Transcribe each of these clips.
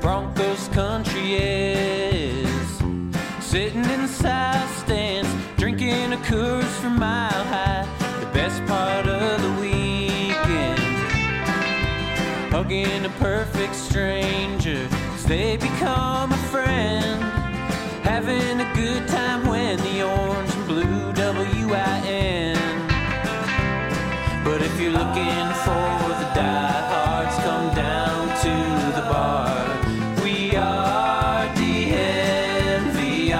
Broncos country is. Sitting in the south stands, drinking a Coors from Mile High. The best part of the weekend, hugging a perfect stranger as they become a friend. Having a good time when the orange and blue WIN. But if you're looking for the diehards, come down to the bar. We are DNVR.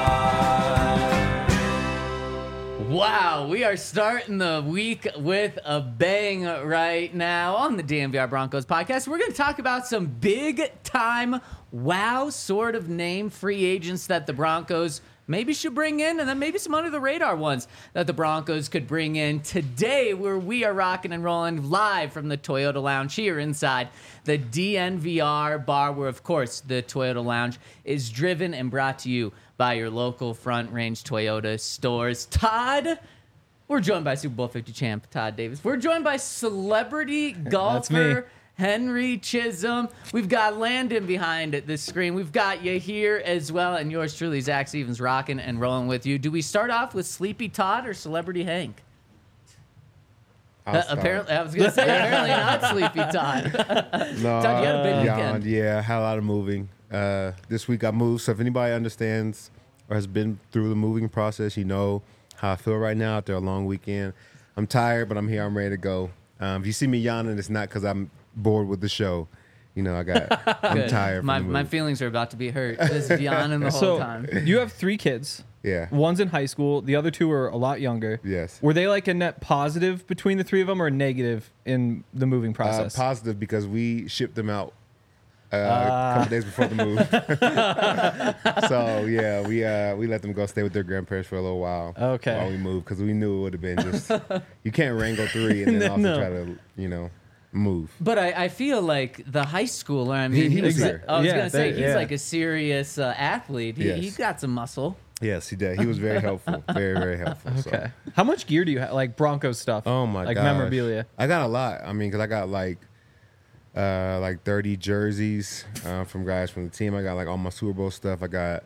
Wow, we are starting the week with a bang right now on the DNVR Broncos podcast. We're going to talk about some big-time, wow sort of name free agents that the Broncos maybe should bring in, and then maybe some under-the-radar ones that the Broncos could bring in today, where we are rocking and rolling live from the Toyota Lounge here inside the DNVR bar, where, of course, the Toyota Lounge is driven and brought to you by your local Front Range Toyota stores. Todd, we're joined by Super Bowl 50 champ Todd Davis. We're joined by celebrity golfer Henry Chisholm. We've got Landon behind the screen. We've got you here as well, and yours truly, Zach Stevens, rocking and rolling with you. Do we start off with Sleepy Todd or Celebrity Hank? Apparently, I was going to say, apparently not Sleepy Todd. No, Todd, you had a big weekend. Yeah, had a lot of moving. This week I moved, so if anybody understands or has been through the moving process, you know how I feel right now after a long weekend. I'm tired, but I'm here. I'm ready to go. If you see me yawning, it's not because I'm bored with the show. You know, I'm tired. My feelings are about to be hurt. Just yawning the whole time. You have 3 kids. Yeah. One's in high school. The other 2 are a lot younger. Yes. Were they like a net positive between the 3 of them, or a negative in the moving process? Positive, because we shipped them out a couple days before the move. So yeah, we let them go stay with their grandparents for a little while. Okay. While we moved, because we knew it would have been just you can't wrangle 3 and then also try to move. But I feel like the high schooler, I mean, He was here. I was going to say, he's yeah. like a serious athlete. Yes. He's got some muscle. Yes, he did. He was very helpful. Very, very helpful. Okay. How much gear do you have? Like Broncos stuff? Oh my god. Like memorabilia? I got a lot. I mean, because I got like 30 jerseys from guys from the team. I got like all my Super Bowl stuff. I got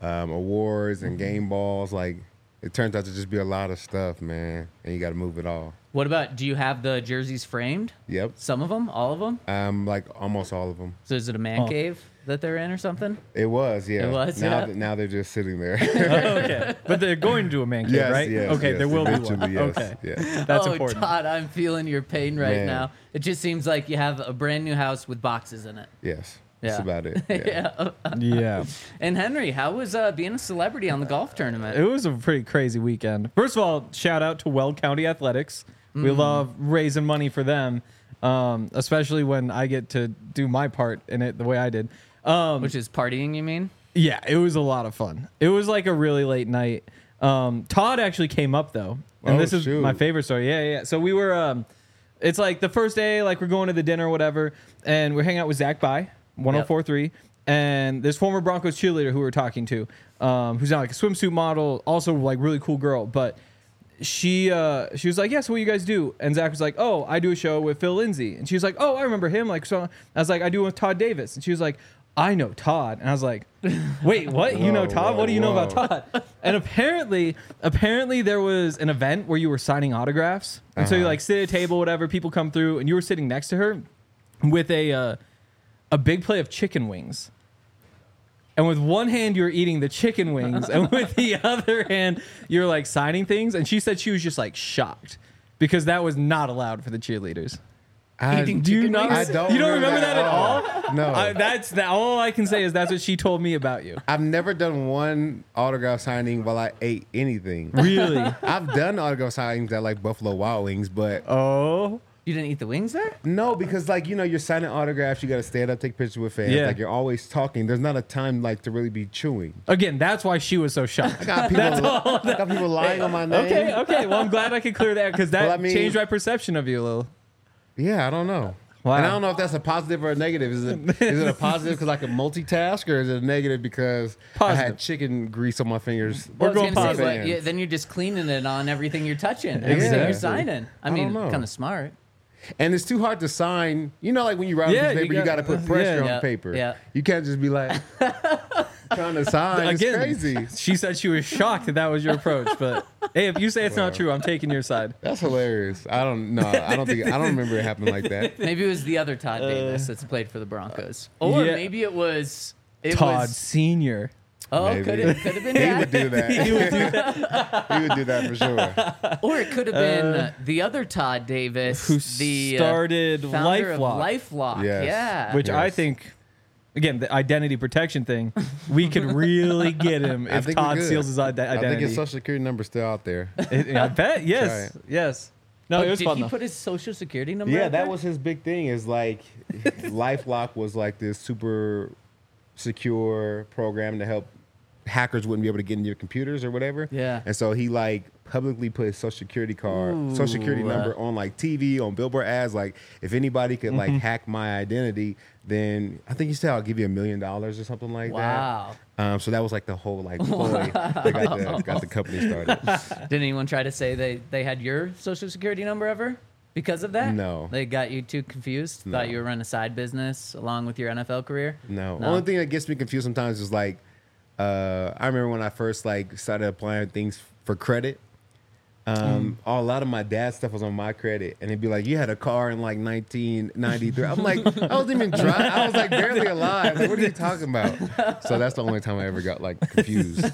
awards and game balls. Like, it turns out to just be a lot of stuff, man. And you got to move it all. What about, do you have the jerseys framed? Yep. Some of them? All of them? Like almost all of them. So is it a man cave that they're in or something? It was, yeah. It was, now, yeah. now they're just sitting there. Okay. But they're going to a man cave, Yes, right? yes, Okay, yes, there will be one. eventually, yes, Okay. yes. That's oh, important. Todd, I'm feeling your pain right Man. now. It just seems like you have a brand new house with boxes in it. Yes. Yeah. That's about it. Yeah. Yeah. And Henry, how was being a celebrity on the golf tournament? It was a pretty crazy weekend. First of all, shout out to Weld County Athletics. We love raising money for them, especially when I get to do my part in it the way I did. Which is partying, you mean? Yeah, it was a lot of fun. It was like a really late night. Todd actually came up, though. And this is my favorite story. Yeah. So we were, it's like the first day, like we're going to the dinner or whatever, and we're hanging out with Zach By, 104.3, and this former Broncos cheerleader who we were talking to, who's now like a swimsuit model, also like really cool girl, but she was like, yeah, so what you guys do? And Zach was like, oh, I do a show with Phil Lindsay. And she was like, oh, I remember him. Like, so I was like, I do it with Todd Davis. And she was like, I know Todd. And I was like, wait, what? You know Todd? What do you know about Todd? And apparently there was an event where you were signing autographs. And so you like sit at a table, whatever, people come through, and you were sitting next to her with a big plate of chicken wings. And with one hand, you were eating the chicken wings, and with the other hand, you're like signing things. And she said she was just like shocked because that was not allowed for the cheerleaders. Do you not? I don't. You don't remember that at all? No. That's all I can say is that's what she told me about you. I've never done one autograph signing while I ate anything. Really? I've done autograph signings at like Buffalo Wild Wings, but Oh. You didn't eat the wings there? no, because like you're signing autographs, you got to stand up, take pictures with fans. Yeah. Like you're always talking. There's not a time like to really be chewing. Again, that's why she was so shocked. I got people lying on my name. Okay. Well, I'm glad I could clear that because that Well, I mean- changed my perception of you a little. Yeah, I don't know. Wow. And I don't know if that's a positive or a negative. Is it a positive because I can multitask, or is it a negative because I had chicken grease on my fingers? We're Well, I was going gonna say, positive. but then you're just cleaning it on everything you're touching, everything Exactly. you're signing. I mean, don't know. kind of smart. And it's too hard to sign. You know, like when you write on a piece of paper, you got to put pressure on the paper. Yeah. You can't just be like trying to sign. It's crazy. She said she was shocked that was your approach. But hey, if you say it's not true, I'm taking your side. That's hilarious. I don't remember it happening like that. Maybe it was the other Todd Davis that's played for the Broncos, or maybe it was Todd Senior. Oh, could have been that. He would do that. He would do that for sure. Or it could have been the other Todd Davis, who the started LifeLock. Yes. Yeah. Which I think, again, the identity protection thing, we could really get him if Todd steals his identity. I think his social security number's still out there. I bet. Yes. Yes. No, it was fun. Did he put his social security number? Yeah, out that there? was his big thing. Is like LifeLock was like this super secure program to help hackers wouldn't be able to get into your computers or whatever. Yeah. And so he like publicly put his social security number on like TV, on billboard ads. Like if anybody could like hack my identity, then I think he said I'll give you $1 million or something like that. Wow. So that was like the whole like ploy that got the company started. Did anyone try to say they had your social security number ever? Because of that? No. They got you too confused? No. Thought you were running a side business along with your NFL career? No. Only thing that gets me confused sometimes is like, I remember when I first like started applying things for credit. A lot of my dad's stuff was on my credit, and it'd be like, "You had a car in like 1993." I'm like, I wasn't even driving. I was like barely alive. Like, what are you talking about? So that's the only time I ever got like confused.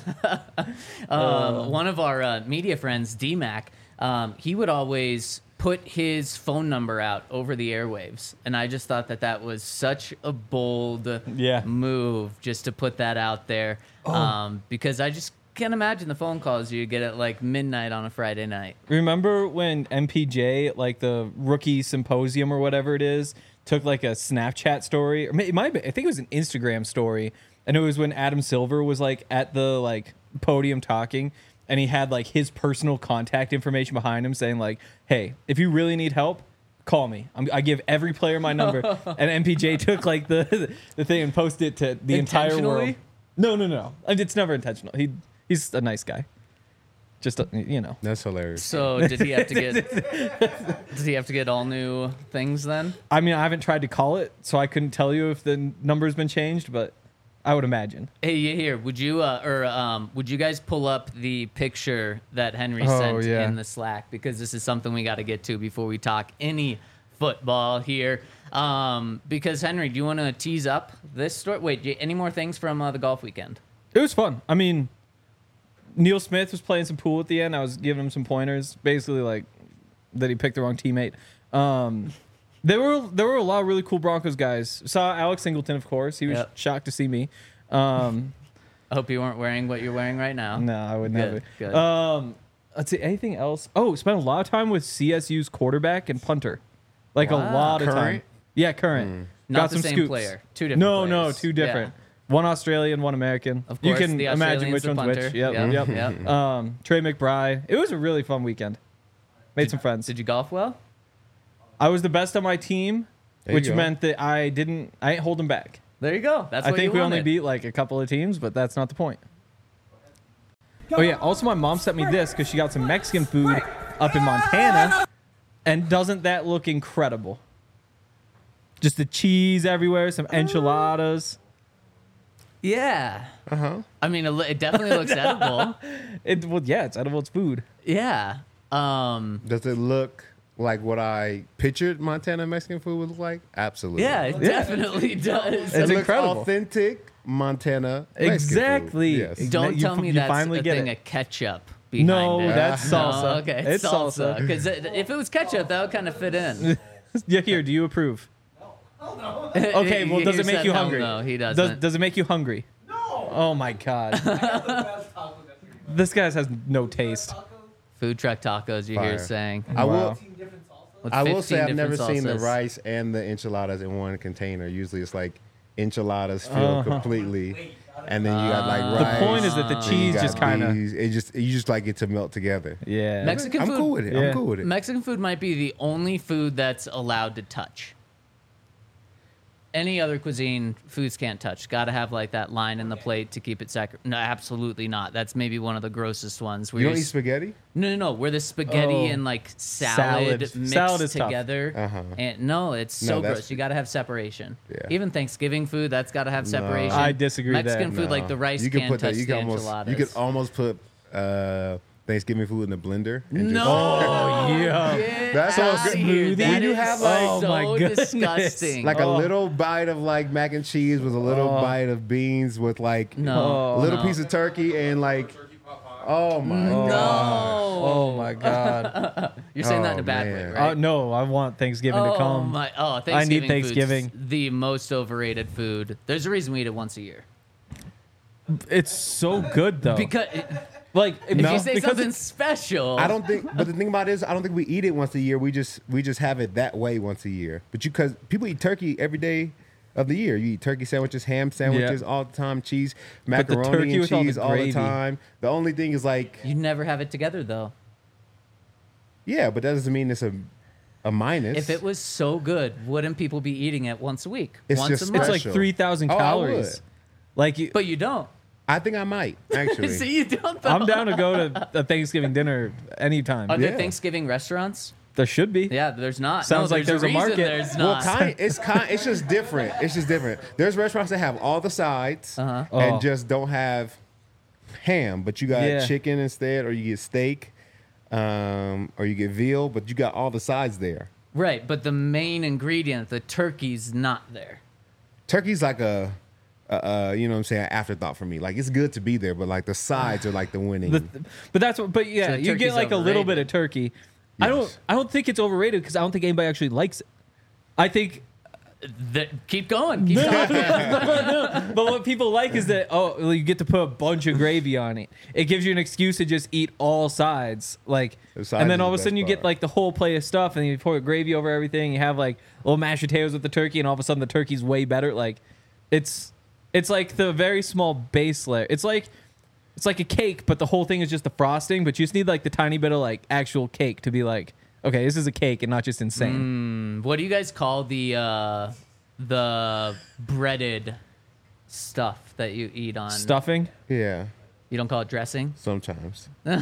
One of our media friends, D-Mac, he would always put his phone number out over the airwaves, and I just thought that was such a bold move just to put that out there, because I just can't imagine the phone calls you get at like midnight on a Friday night. Remember when MPJ, like the rookie symposium or whatever it is, took like a Snapchat story, or it might be, I think it was an Instagram story, and it was when Adam Silver was like at the like podium talking, and he had like his personal contact information behind him saying like, "Hey, if you really need help, call me. I give every player my number." And MPJ took like the thing and posted it to the entire world. No. It's never intentional. He's a nice guy. Just That's hilarious. So did he have to get all new things then? I mean, I haven't tried to call it, so I couldn't tell you if the number's been changed, but I would imagine. Hey, here, would you would you guys pull up the picture that Henry sent in the Slack, because this is something we got to get to before we talk any football here. Because Henry, do you want to tease up this story? Wait, any more things from the golf weekend? It was fun. I mean, Neil Smith was playing some pool at the end. I was giving him some pointers, basically like that he picked the wrong teammate. There were a lot of really cool Broncos guys. Saw Alex Singleton, of course. He was shocked to see me. I hope you weren't wearing what you're wearing right now. No, I would never. Good. Let's see, anything else? Oh, spent a lot of time with CSU's quarterback and punter. Like a lot of time. Yeah, current. Not Got the some same scoops. player. Two different players. No, two different. One Australian, one American. Of course, you can the imagine which the one's punter. which. Yep. Trey McBride. It was a really fun weekend. Made some friends. Did you golf well? I was the best on my team, which meant that I ain't holding back. There you go. That's I what think you we only wanted. beat like a couple of teams, but that's not the point. Oh yeah, also my mom sent me this because she got some Mexican food up in Montana, and doesn't that look incredible? Just the cheese everywhere, some enchiladas. Yeah. I mean, it definitely looks edible. It's edible. It's food. Yeah. Does it look like what I pictured Montana Mexican food would look like? Absolutely. Yeah, it definitely does. It's It looks incredible. authentic Montana Mexican exactly. food. Yes. Don't tell me you that's finally a get thing it. of ketchup behind No, it. that's salsa. No, okay, it's salsa. Because if it was ketchup, that would kind of fit in. Yeah, here. Do you approve? No. Okay. Well, does it make you hungry? No, he doesn't. Does it make you hungry? No. Oh my god. This guy has no taste. Food truck tacos, you hear Fire. saying. I will. With I will 15 say I've different never seen the salsas. rice and the enchiladas in one container. Usually it's like enchiladas filled completely, and then you got like rice. The point is that the then you cheese got just kind of. peas. You just like it to melt together. Yeah. Mexican I'm food. cool with it. Yeah. I'm cool with it. Mexican food might be the only food that's allowed to touch. any other cuisine, foods can't touch. Got to have like that line in the plate to keep it sacred. No, absolutely not. That's maybe one of the grossest ones. You don't eat spaghetti? No. Where the spaghetti and like salad mixed Salad is together. Uh-huh. And no, it's so that's- gross. You got to have separation. Yeah. Even Thanksgiving food, that's got to have separation. I disagree with Mexican that. food, like the rice You can can't put touch that. You the can enchiladas. almost. You could almost put Thanksgiving food in the blender. And No. Oh, yeah. Get That's outta so good. here. When That you is have, like- Oh, so my goodness. disgusting. like a little bite of like mac and cheese with a little bite of beans with like No. a little no. piece of turkey and like. Oh my god. No. Oh my God. You're saying that in Oh, a bad way, man. right? No, I want Thanksgiving to come. Thanksgiving I need food's Thanksgiving. the most overrated food. There's a reason we eat it once a year. It's so good though. Because like if No. you say because something it's- special, I don't think, but the thing about it is, I don't think we eat it once a year. We just have it that way once a year. But because people eat turkey every day of the year, you eat turkey sandwiches, ham sandwiches all the time, cheese, But the macaroni turkey and with all the cheese all the gravy. time. The only thing is like, you never have it together though. yeah, but that doesn't mean it's a minus. If it was so good, wouldn't people be eating it once a week, It's once just a month? it's like special. 3,000 Oh, I calories. would. Like you, But you don't. I think I might actually. See, you don't. Though. I'm down to go to a Thanksgiving dinner anytime. Are there Yeah. Thanksgiving restaurants? There should be. Yeah, there's not. Sounds like there's a reason market. There's Well, not. it's just different. It's just different. There's restaurants that have all the sides Uh-huh. Oh. and just don't have ham, but you got Yeah. chicken instead, or you get steak, or you get veal, but you got all the sides there. Right, but the main ingredient, the turkey's not there. Turkey's like a you know what I'm saying, afterthought for me. Like it's good to be there, but like the sides are like the winning. But that's what. But yeah, So you get turkey's like a little overrated. bit of turkey. Yes. I don't think it's overrated because I don't think anybody actually likes it. I think, Keep going. Keep talking. but what people like is that well, you get to put a bunch of gravy on it. It gives you an excuse to just eat all sides, like, The sides and then is all of the a sudden best you get part. like the whole plate of stuff, and you pour gravy over everything. You have like little mashed potatoes with the turkey, and all of a sudden the turkey's way better. Like, it's like the very small base layer. It's like a cake, but the whole thing is just the frosting. But you just need like the tiny bit of like actual cake to be like, okay, this is a cake and not just insane. What do you guys call the breaded stuff that you eat on? Stuffing. yeah, You don't call it dressing? sometimes Yeah,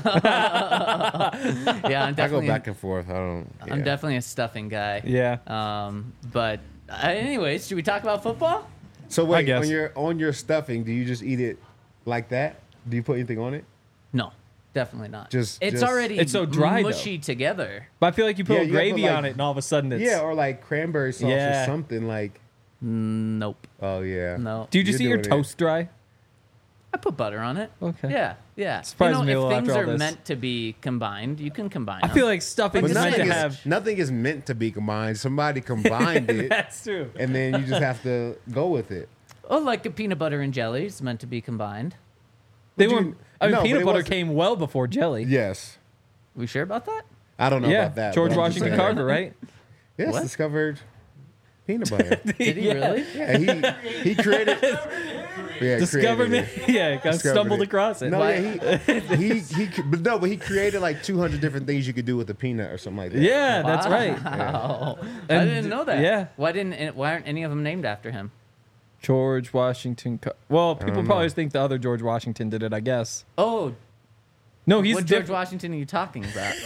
I'm I go definitely. back and forth. I don't. I'm yeah. definitely a stuffing guy. Yeah. But anyways, should we talk about football? So wait, guess. on your stuffing, do you just eat it like that? Do you put anything on it? No, definitely not. Just- it's just- already It's so dry, though. mushy together. But I feel like you put Yeah, a you gotta gravy put, like- on it, and all of a sudden it's Yeah, or like cranberry sauce Yeah. or something like. Nope. Oh yeah. No. Do you just eat You're your doing it. toast dry? I put butter on it. Okay. Yeah. Surprises me a if little things after all are this. meant to be combined, you can combine I them. feel like stuffing But is meant nothing to is, have. nothing is meant to be combined. Somebody combined it, That's true. and then you just have to go with it. Oh, like a peanut butter and jelly is meant to be combined. They Would you- weren't. I mean, No, but peanut it butter wasn't- came well before jelly. Yes. We sure about that? I don't know Yeah, about that. George but I'm just Washington saying. Carver, right? Yes, What? discovered peanut butter. Did he really? Yeah, he created. Yeah, Discovered created it. Yeah, got Discovered stumbled it. across it. No, Why- yeah, but he created like 200 different things you could do with a peanut or something like that. Yeah, that's right. Wow. I And- didn't know that. yeah. Why aren't any of them named after him? George Washington. Well, people don't probably know. think the other George Washington did it. I guess. Oh, No, he's what George different. Washington are you talking about?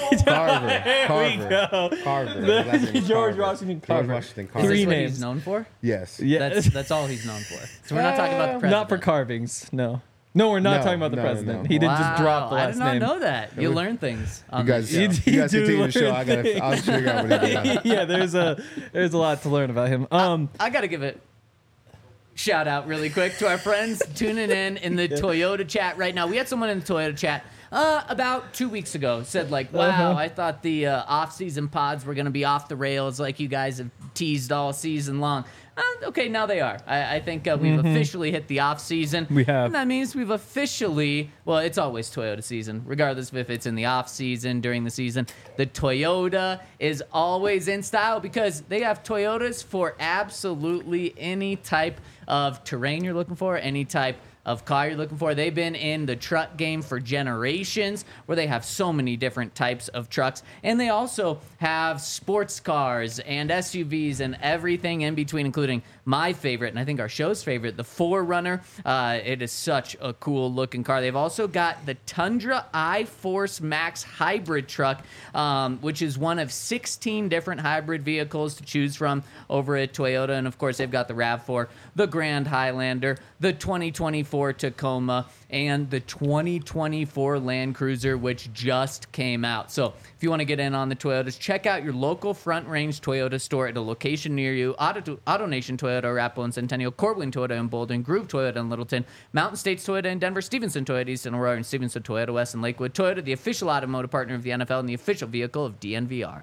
Carver. Carver. His last name is George Carver. Washington Carver. George Washington Is Carver. this Three what names. he's known for? Yes. Yeah, That's all he's known for. So we're not talking about the president. not for carvings. No, no, we're not No, talking about the no, president. no. He didn't just drop the Wow, last I did not name. know that. You learn things. You On guys, this show. you guys do continue the show. learn I'll figure out what he's doing. Yeah, there's a lot to learn about him. I got to give it shout out really quick to our friends tuning in the Toyota chat right now. We had someone in the Toyota chat about 2 weeks ago said like, wow, I thought the off-season pods were going to be off the rails like you guys have teased all season long. Okay, now they are. I think we've officially hit the off-season. We have. And that means we've officially, well, it's always Toyota season, regardless of if it's in the off-season, during the season. The Toyota is always in style because they have Toyotas for absolutely any type of terrain you're looking for, any type of car you're looking for. They've been in the truck game for generations, where they have so many different types of trucks. And they also have sports cars and SUVs and everything in between, including my favorite, and I think our show's favorite, the 4Runner. It is such a cool looking car. They've also got the Tundra iForce Max hybrid truck, which is one of 16 different hybrid vehicles to choose from over at Toyota. And of course, they've got the RAV4, the Grand Highlander, the 2024 Tacoma, and the 2024 Land Cruiser, which just came out. So if you want to get in on the Toyotas, check out your local Front Range Toyota store at a location near you. AutoNation Toyota, Arapahoe and Centennial, Cortland Toyota in Bolden, Groove Toyota in Littleton, Mountain States Toyota in Denver, Stevenson Toyota East in Aurora, and Stevenson Toyota West in Lakewood. Toyota, the official automotive partner of the NFL and the official vehicle of DNVR.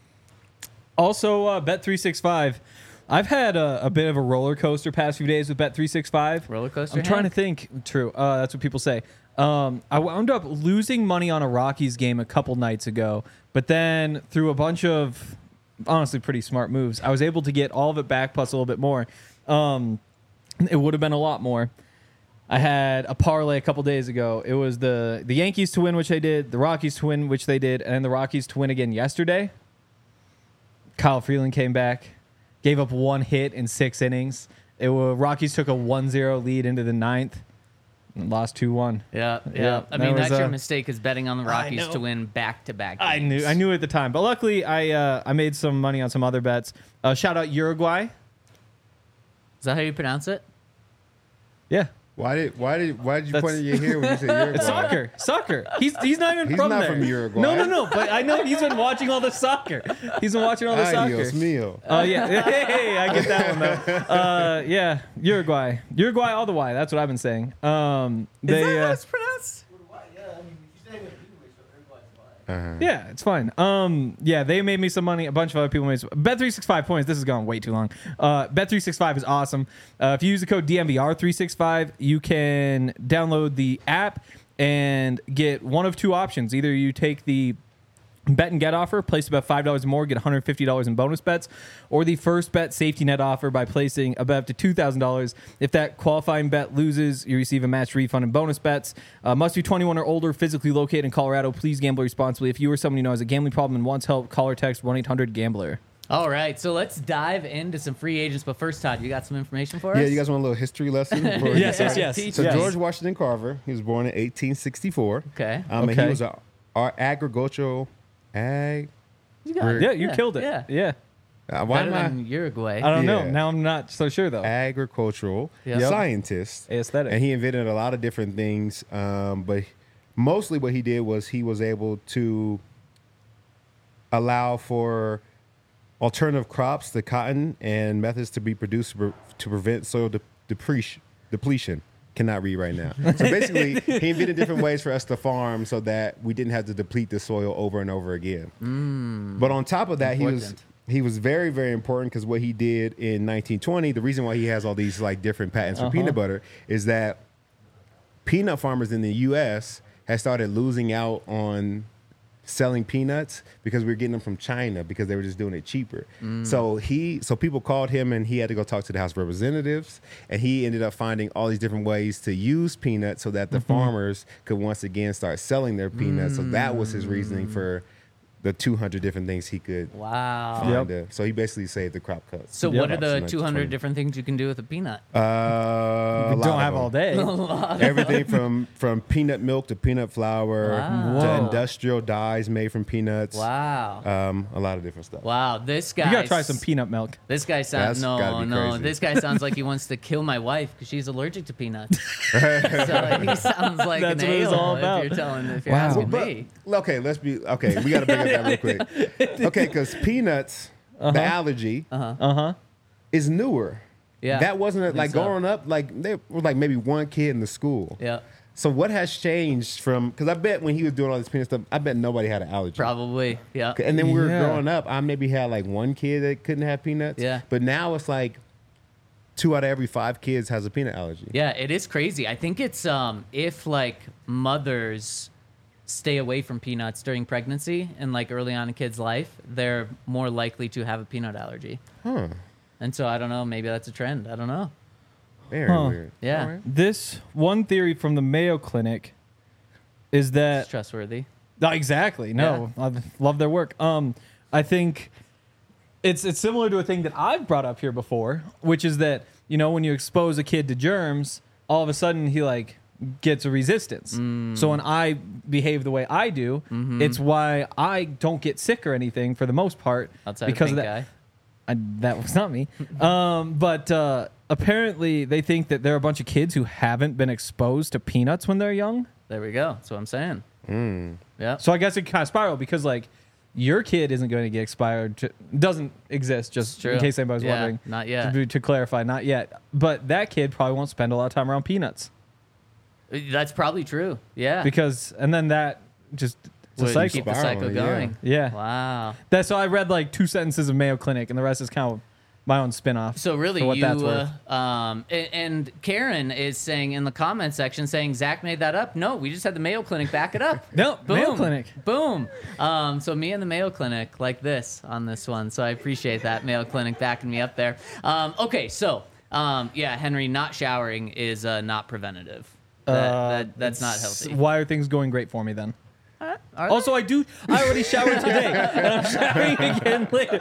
Also, Bet365. I've had a bit of a roller coaster past few days with Bet365. Roller coaster? I'm trying to think. True. That's what people say. I wound up losing money on a Rockies game a couple nights ago, but then through a bunch of honestly pretty smart moves, I was able to get all of it back plus a little bit more. It would have been a lot more. I had a parlay a couple days ago. It was the Yankees to win, which they did, the Rockies to win, which they did, and the Rockies to win again yesterday. Kyle Freeland came back, gave up one hit in 6 innings. Rockies took a 1-0 lead into the ninth and lost 2-1. Yeah. I mean, that's your mistake, is betting on the Rockies to win back-to-back games. I knew at the time, but luckily I made some money on some other bets. Shout out Uruguay. Is that how you pronounce it? Yeah. Why did you point at your hair when you said Uruguay? It's soccer. He's not even from there. He's not from Uruguay. No. But I know he's been watching all the soccer. He's been watching all the soccer. Adios mio. Yeah. Hey, I get that one though. Yeah, Uruguay all the way. That's what I've been saying. Is that how it's pronounced? Yeah, it's fine. Yeah, they made me some money. A bunch of other people made some. Bet365 points. This has gone way too long. Bet365 is awesome. If you use the code DNVR365, you can download the app and get one of two options. Either you take the bet and get offer, place about $5 or more, get $150 in bonus bets, or the first bet safety net offer by placing a bet up to $2,000. If that qualifying bet loses, you receive a match refund and bonus bets. Must be 21 or older, physically located in Colorado. Please gamble responsibly. If you or someone you know has a gambling problem and wants help, call or text 1-800-GAMBLER. All right, so let's dive into some free agents. But first, Todd, you got some information for us? Yeah, you guys want a little history lesson? Yes. So George Washington Carver, he was born in 1864. Okay. And he was our agricultural... You killed it. Yeah. Why am I in Uruguay? I don't know. Now I'm not so sure though. Agricultural scientist, aesthetic, and he invented a lot of different things. But mostly, what he did was he was able to allow for alternative crops, the cotton, and methods to be produced to prevent soil depletion. Cannot read right now. So basically, he invented different ways for us to farm so that we didn't have to deplete the soil over and over again. But on top of that, he was very, very important, because what he did in 1920, the reason why he has all these like different patents for peanut butter is that peanut farmers in the U.S. had started losing out on selling peanuts because we were getting them from China because they were just doing it cheaper. So people called him, and he had to go talk to the House of Representatives, and he ended up finding all these different ways to use peanuts so that the farmers could once again start selling their peanuts. So that was his reasoning for the 200 different things he could find. So he basically saved the crop cuts. So what are the 200 different things you can do with a peanut? Don't have all day. Everything from peanut milk to peanut flour to industrial dyes made from peanuts. Wow. A lot of different stuff. Wow. This guy. You gotta try some peanut milk. This guy sounds crazy. This guy sounds like he wants to kill my wife because she's allergic to peanuts. So he sounds like That's an what it was all ale about. if you're asking me. Okay, we gotta bring up that real quick. Okay, because peanuts, the allergy, is newer. Yeah, that wasn't like growing up. Like there was like maybe one kid in the school. Yeah. So what has changed from? Because I bet when he was doing all this peanut stuff, I bet nobody had an allergy. Probably. Yeah. And then we were growing up. I maybe had like one kid that couldn't have peanuts. Yeah. But now it's like 2 out of every 5 kids has a peanut allergy. Yeah, it is crazy. I think it's if like mothers stay away from peanuts during pregnancy and like early on in a kid's life, they're more likely to have a peanut allergy. And so I don't know, maybe that's a trend. I don't know. Very weird. Yeah. Right. This one theory from the Mayo Clinic is that It's trustworthy. No, exactly. No, I love their work. I think it's similar to a thing that I've brought up here before, which is that, you know, when you expose a kid to germs, all of a sudden he like gets a resistance. So when I behave the way I do, it's why I don't get sick or anything for the most part. Outside because of of pink that. guy. That was not me. But apparently they think that there are a bunch of kids who haven't been exposed to peanuts when they're young. There we go. That's what I'm saying. Yeah. So I guess it kind of spiral because like your kid isn't going to get expired. Doesn't exist. Just in case anybody's wondering. Not yet. To clarify, not yet. But that kid probably won't spend a lot of time around peanuts That's probably true. Yeah. and then that just it's a Would cycle. keep the cycle going. Yeah. Wow. That's so I read like 2 sentences of Mayo Clinic, and the rest is kind of my own spin-off. So really, for what that's worth. And Karen is saying in the comment section, saying Zach made that up. No, we just had the Mayo Clinic back it up. No, Boom. Mayo Clinic. Boom. So me and the Mayo Clinic like this on this one. So I appreciate that Mayo Clinic backing me up there. Okay, so yeah, Henry, not showering is not preventative. That's not healthy. Why are things going great for me then? Are Also, I already showered today, and I'm showering again later.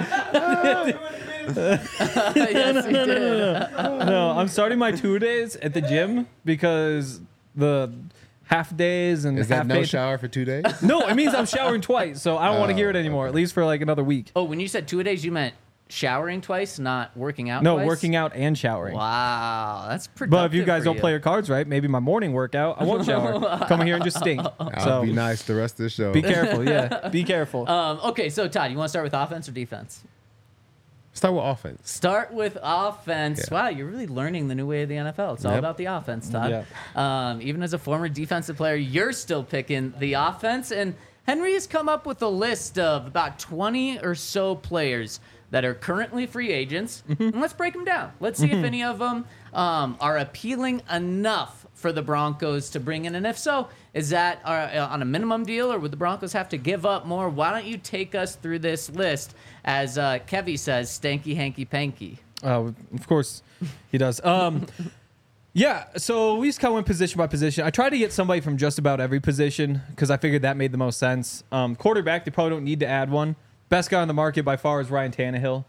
yes, he did. No, I'm starting my 2 days at the gym because the half days and Is half that no days. shower for 2 days? No, it means I'm showering twice, so I don't want to hear it anymore. At least for like another week. Oh, when you said 2 days, you meant showering twice, not working out No, twice? working out and showering. Wow, that's productive. But if you guys for don't play your cards right, maybe my morning workout, I won't shower. Come here and just stink. I'll So be nice the rest of the show. be careful. Yeah, be careful. Okay, so Todd, you want to start with offense or defense? Start with offense. Start with offense. Yeah. Wow, you're really learning the new way of the NFL. It's all Yep. about the offense, Todd. Even as a former defensive player, you're still picking the offense. And Henry has come up with a list of about 20 or so players that are currently free agents. And let's break them down. Let's see if any of them are appealing enough for the Broncos to bring in. And if so, is that on a minimum deal, or would the Broncos have to give up more? Why don't you take us through this list? As Kevy says, stanky, hanky, panky. Of course he does. Yeah, so we just kind of went position by position. I tried to get somebody from just about every position because I figured that made the most sense. Quarterback, they probably don't need to add one. Best guy on the market by far is Ryan Tannehill.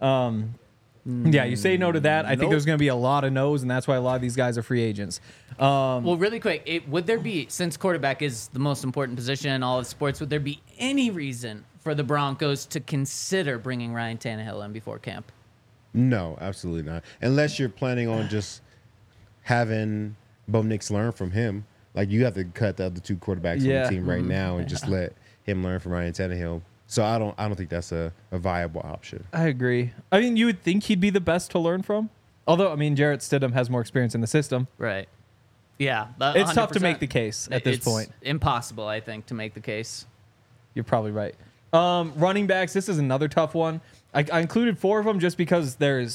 Yeah, you say no to that. I think there's going to be a lot of no's, and that's why a lot of these guys are free agents. Well, really quick, would there be, since quarterback is the most important position in all of sports, would there be any reason for the Broncos to consider bringing Ryan Tannehill in before camp? No, absolutely not. Unless you're planning on just having Bo Nix learn from him. Like, you have to cut the other two quarterbacks on the team right now and just let him learn from Ryan Tannehill. So I don't think that's a viable option. I agree. I mean, you would think he'd be the best to learn from. Although, I mean, Jarrett Stidham has more experience in the system. Right. Yeah. It's tough to 100%. make the case at this point. Impossible, I think, to make the case. You're probably right. Running backs, this is another tough one. I included 4 of them just because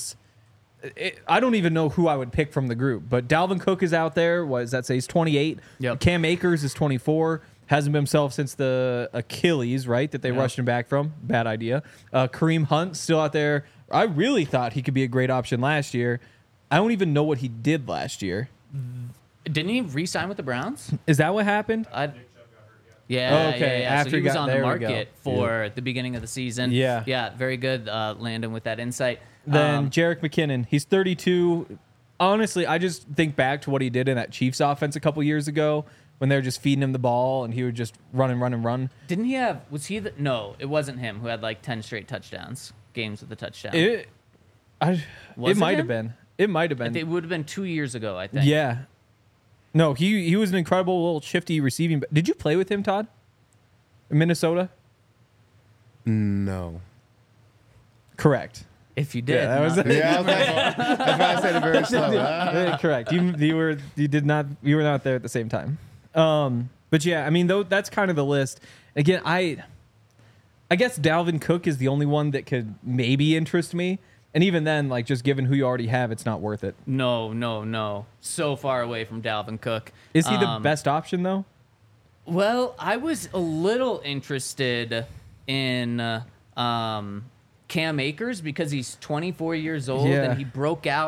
I don't even know who I would pick from the group. But Dalvin Cook is out there. What does that say? He's 28. Yep. Cam Akers is 24. Hasn't been himself since the Achilles, right? That they rushed him back from. Bad idea. Kareem Hunt still out there. I really thought he could be a great option last year. I don't even know what he did last year. Didn't he re-sign with the Browns? Is that what happened? Yeah. Okay, Yeah. after so he he was got- on the there we go. market for the beginning of the season. Yeah. Yeah. Very good, Landon, with that insight. Then Jerick McKinnon, he's 32. Honestly, I just think back to what he did in that Chiefs offense a couple years ago when they were just feeding him the ball and he would just run and run and run. Didn't he have? Was he the? No, it wasn't him who had like 10 straight touchdowns, games with a touchdown. It Was it might have him? been. It might have been. It would have been 2 years ago, I think. Yeah. No, he was an incredible little shifty receiving. Did you play with him, Todd? In Minnesota? No. Correct. If you did, Yeah, that was not- it. Yeah, that's why I said it very slow. Correct. You were not there at the same time. But yeah, I mean, that's kind of the list. Again, I guess Dalvin Cook is the only one that could maybe interest me. And even then, like, just given who you already have, it's not worth it. No. So far away from Dalvin Cook. Is he the best option though? Well, I was a little interested in Cam Akers because he's 24 years old Yeah. and he broke out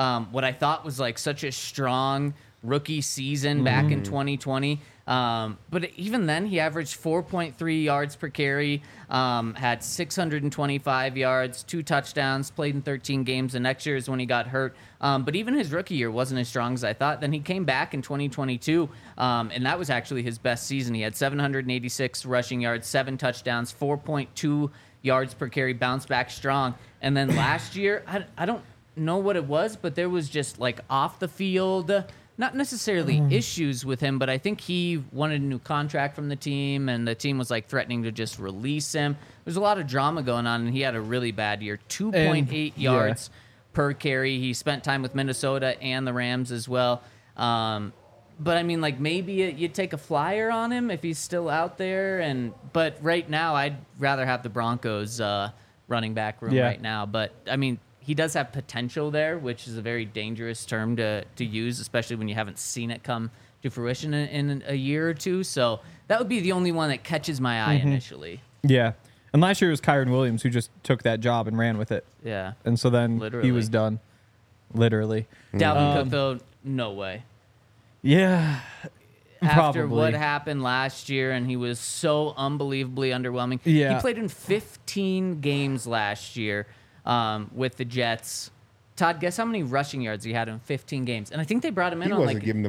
what I thought was like such a strong rookie season back in 2020. But even then, he averaged 4.3 yards per carry, had 625 yards, 2 touchdowns, played in 13 games. The next year is when he got hurt. But even his rookie year wasn't as strong as I thought. Then he came back in 2022, and that was actually his best season. He had 786 rushing yards, 7 touchdowns, 4.2 yards per carry, bounced back strong. And then last year, I don't know what it was, but there was just like off the field, not necessarily issues with him, but I think he wanted a new contract from the team, and the team was like threatening to just release him. There's a lot of drama going on, and he had a really bad year. 2.8 yards per carry. He spent time with Minnesota and the Rams as well. But I mean, like maybe you'd take a flyer on him if he's still out there. But right now, I'd rather have the Broncos running back room right now. But I mean, he does have potential there, which is a very dangerous term to use, especially when you haven't seen it come to fruition in a year or two. So that would be the only one that catches my eye initially. Yeah. And last year it was Kyron Williams who just took that job and ran with it. Yeah. And so then he was done. Literally. Dalvin Cook, though, no way. Yeah. After what happened last year, and he was so unbelievably underwhelming. Yeah. He played in 15 games last year with the Jets. Todd, guess how many rushing yards he had in 15 games? And I think they brought him in on like $8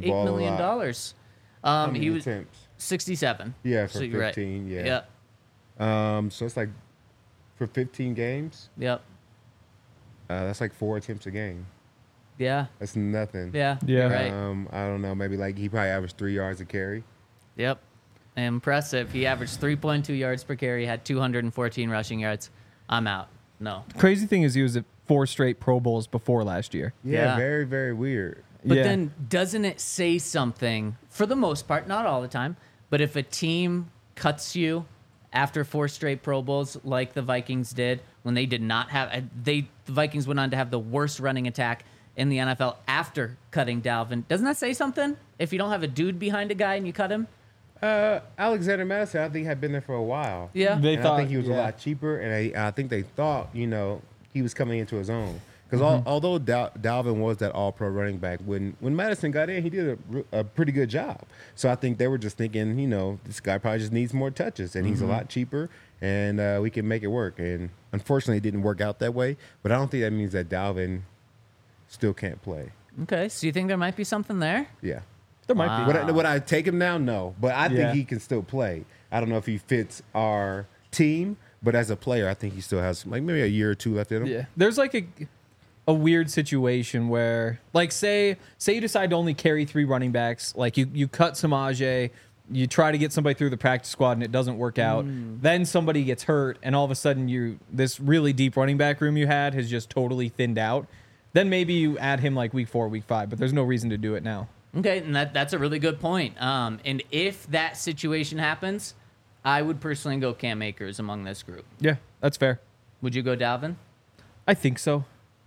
million. He was attempts? 67. Yeah, for so 15, right. yeah. Yep. So it's like for 15 games, Yep. that's like 4 attempts a game. Yeah. That's nothing. Yeah. Yeah. Right. I don't know. Maybe like he probably averaged 3 yards a carry. Yep. Impressive. He averaged 3.2 yards per carry, had 214 rushing yards. I'm out. No. Crazy thing is he was at 4 straight Pro Bowls before last year. Yeah. Very, very weird. But then doesn't it say something, for the most part, not all the time, but if a team cuts you after 4 straight Pro Bowls like the Vikings did, when they did not have, the Vikings went on to have the worst running attack in the NFL after cutting Dalvin. Doesn't that say something? If you don't have a dude behind a guy and you cut him? Alexander Madison, I think, had been there for a while. Yeah. They And thought, I think he was a lot cheaper, and I think they thought, he was coming into his own. Because although Dalvin was that all-pro running back, when Madison got in, he did a pretty good job. So I think they were just thinking, this guy probably just needs more touches, and he's a lot cheaper, and we can make it work. And unfortunately, it didn't work out that way. But I don't think that means that Dalvin still can't play. Okay, so you think there might be something there? Yeah. there might be. Would I take him now? No. But I think he can still play. I don't know if he fits our team, but as a player, I think he still has like maybe a year or 2 left in him. Yeah. There's like a weird situation where, like, say you decide to only carry 3 running backs, like you cut Samaje, you try to get somebody through the practice squad and it doesn't work out. Then somebody gets hurt, and all of a sudden this really deep running back room you had has just totally thinned out. Then maybe you add him like week 4, week 5, but there's no reason to do it now. Okay, and that's a really good point. And if that situation happens, I would personally go Cam Akers among this group. Yeah, that's fair. Would you go Dalvin? I think so.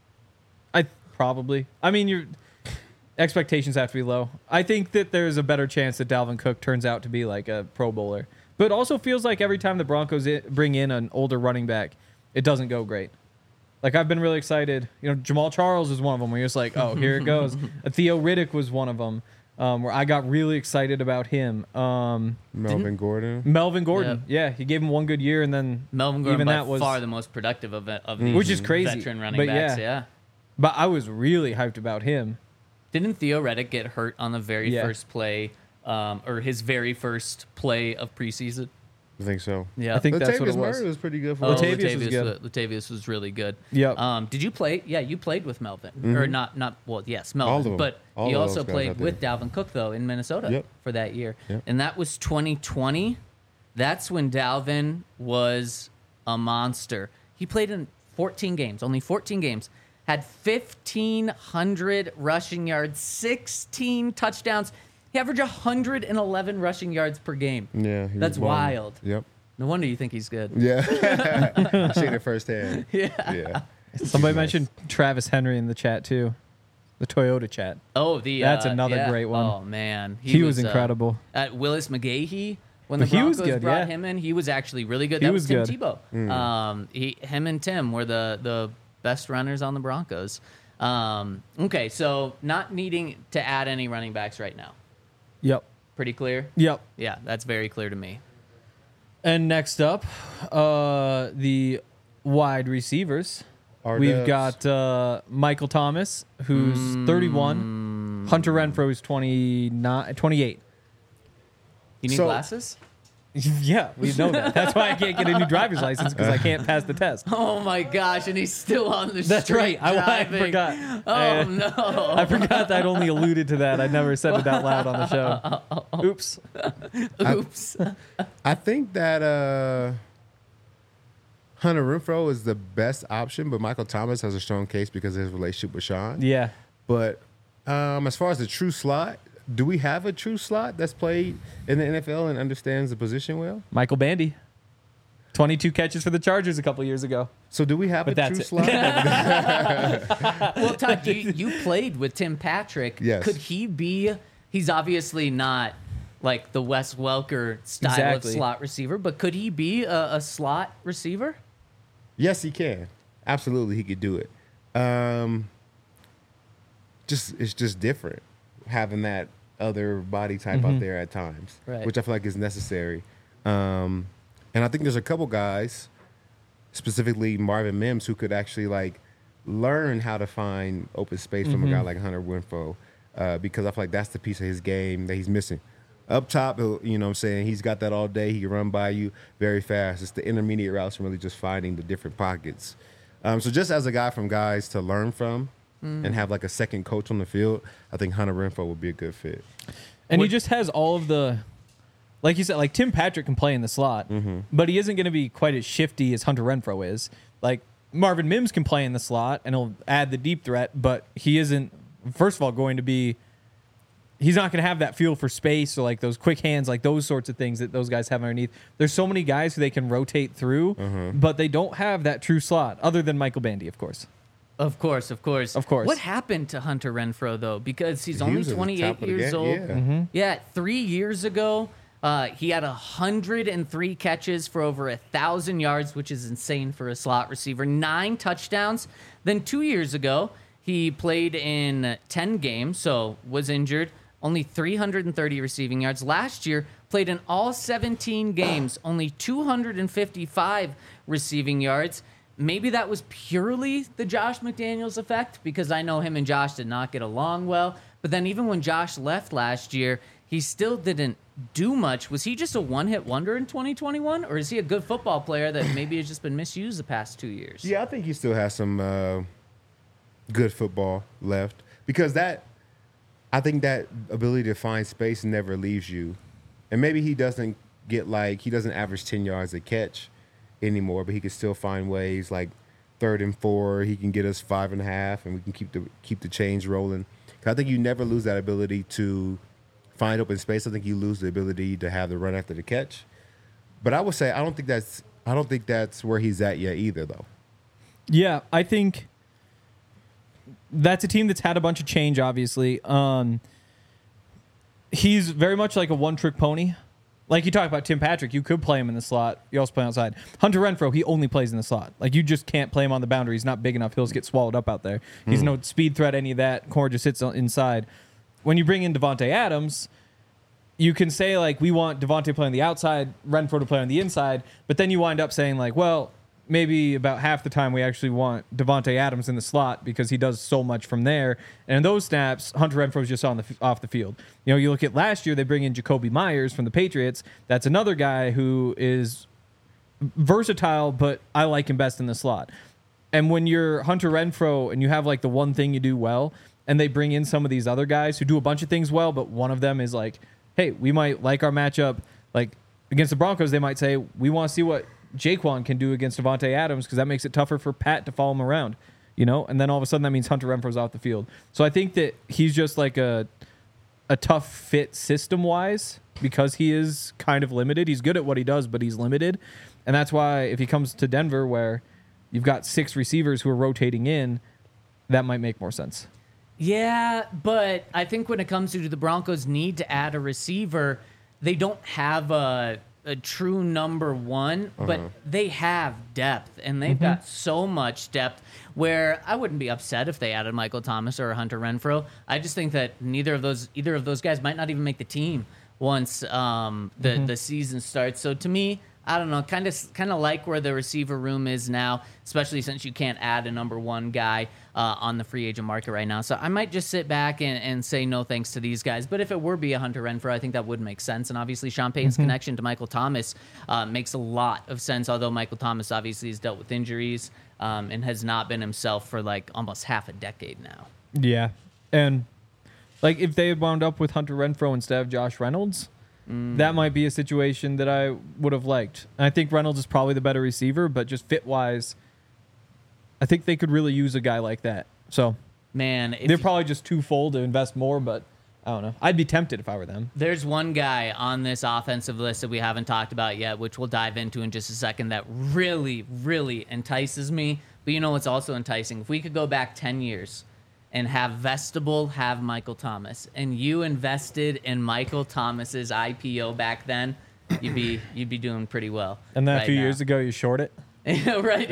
Probably. I mean, your expectations have to be low. I think that there's a better chance that Dalvin Cook turns out to be like a Pro Bowler. But it also feels like every time the Broncos bring in an older running back, it doesn't go great. Like, I've been really excited. Jamal Charles is one of them where you're just like, oh, here it goes. Theo Riddick was one of them where I got really excited about him. Melvin Gordon. Yeah, he gave him 1 good year, and then Melvin Gordon even by that was far the most productive of these which is crazy. veteran running backs. Yeah. But I was really hyped about him. Didn't Theo Riddick get hurt on the very first play, or his very first play of preseason? I think so. Yeah, I think that's what it Latavius was. Murray was pretty good for Latavius was good. Latavius was really good. Yep. Did you play? Yeah, you played with Melvin, or not? Well, yes, Melvin. All of them. But All you of also those guys played out there. with Dalvin Cook though in Minnesota for that year, and that was 2020. That's when Dalvin was a monster. He played in 14 games, only 14 games. Had 1,500 rushing yards, 16 touchdowns. He averaged 111 rushing yards per game. Yeah. That's wild. Yep. No wonder you think he's good. Yeah. Seen it firsthand. Yeah. Somebody mentioned Travis Henry in the chat too, the Toyota chat. Oh, that's another great one. Oh man, He was incredible. At Willis McGahee, when the He was Broncos good, brought him in, he was actually really good. He That was Tim good. Tebow. Him and Tim were the best runners on the Broncos. Okay, so not needing to add any running backs right now. Yep. Pretty clear? Yep. Yeah, that's very clear to me. And next up, the wide receivers. We've got Michael Thomas, who's 31. Hunter Renfrow is 28. You need glasses? Yeah, we know that. That's why I can't get a new driver's license, because I can't pass the test. Oh my gosh, and he's still on the street. That's right. I driving. forgot. Oh no. I forgot that I'd only alluded to that. I never said it out loud on the show. Oops. Oops. I think that Hunter Renfrow is the best option, but Michael Thomas has a strong case because of his relationship with Sean. Yeah. But as far as the true slot, do we have a true slot that's played in the NFL and understands the position well? Michael Bandy. 22 catches for the Chargers a couple years ago. So do we have a true slot? Well, Todd, you played with Tim Patrick. Yes. Could he be... He's obviously not like the Wes Welker style of slot receiver, but could he be a slot receiver? Yes, he can. Absolutely, he could do it. It's just different having that other body type out there at times, right, which I feel like is necessary. And I think there's a couple guys, specifically Marvin Mims, who could actually like learn how to find open space from a guy like Hunter Renfrow, because I feel like that's the piece of his game that he's missing. Up top, you know what I'm saying, he's got that all day. He can run by you very fast. It's the intermediate routes and really just finding the different pockets. So just as a guy from guys to learn from and have like a second coach on the field, I think Hunter Renfrow would be a good fit. And he just has all of the, like you said, like Tim Patrick can play in the slot, but he isn't going to be quite as shifty as Hunter Renfrow is. Like Marvin Mims can play in the slot and he'll add the deep threat, but he isn't, first of all, going to be, he's not going to have that feel for space or like those quick hands, like those sorts of things that those guys have underneath. There's so many guys who they can rotate through, but they don't have that true slot, other than Michael Bandy, of course. Of course. What happened to Hunter Renfrow, though? Because he's only 28 years old. Yeah, 3 years ago, he had 103 catches for over 1,000 yards, which is insane for a slot receiver, 9 touchdowns. Then 2 years ago, he played in 10 games, so was injured, only 330 receiving yards. Last year, played in all 17 games, only 255 receiving yards. Maybe that was purely the Josh McDaniels effect, because I know him and Josh did not get along well. But then even when Josh left last year, he still didn't do much. Was he just a one-hit wonder in 2021? Or is he a good football player that maybe has just been misused the past 2 years? Yeah, I think he still has some good football left. Because I think that ability to find space never leaves you. And maybe he doesn't average 10 yards a catch anymore, but he can still find ways like 3rd and 4. He can get us 5.5, and we can keep the chains rolling. I think you never lose that ability to find open space. I think you lose the ability to have the run after the catch. But I would say I don't think that's where he's at yet either, though. Yeah, I think that's a team that's had a bunch of change. Obviously, he's very much like a one-trick pony. Like you talk about Tim Patrick, you could play him in the slot. You also play outside. Hunter Renfrow, he only plays in the slot. Like you just can't play him on the boundary. He's not big enough. He'll just get swallowed up out there. He's no speed threat, any of that. Core just sits inside. When you bring in Davante Adams, you can say like we want Davante to play on the outside, Renfrow to play on the inside, but then you wind up saying like, well, maybe about half the time we actually want Davante Adams in the slot because he does so much from there. And in those snaps, Hunter Renfrow's just off the field. You know, you look at last year, they bring in Jacoby Myers from the Patriots. That's another guy who is versatile, but I like him best in the slot. And when you're Hunter Renfrow and you have like the one thing you do well, and they bring in some of these other guys who do a bunch of things well, but one of them is like, hey, we might like our matchup. Like against the Broncos, they might say, we want to see what Jaquan can do against Davante Adams because that makes it tougher for Pat to follow him around, you know? And then all of a sudden that means Hunter Renfrow's off the field. So I think that he's just like a tough fit system-wise because he is kind of limited. He's good at what he does, but he's limited. And that's why if he comes to Denver where you've got 6 receivers who are rotating in, that might make more sense. Yeah, but I think when it comes to the Broncos need to add a receiver, they don't have a a true number one, but they have depth, and they've got so much depth where I wouldn't be upset if they added Michael Thomas or Hunter Renfrow. I just think that either of those guys might not even make the team once the season starts. So to me, I don't know, kind of like where the receiver room is now, especially since you can't add a number one guy on the free agent market right now. So I might just sit back and say no thanks to these guys. But if it were be a Hunter Renfrow, I think that would make sense. And obviously Sean Payton's connection to Michael Thomas makes a lot of sense, although Michael Thomas obviously has dealt with injuries and has not been himself for like almost half a decade now. Yeah. And like if they had wound up with Hunter Renfrow instead of Josh Reynolds, that might be a situation that I would have liked. And I think Reynolds is probably the better receiver, but just fit-wise, I think they could really use a guy like that. So, man, they're probably just too full to invest more, but I don't know. I'd be tempted if I were them. There's one guy on this offensive list that we haven't talked about yet, which we'll dive into in just a second, that really, really entices me. But you know what's also enticing? If we could go back 10 years and have Vestibule have Michael Thomas, and you invested in Michael Thomas's IPO back then, you'd be doing pretty well. And then a few years ago, you short it. Right,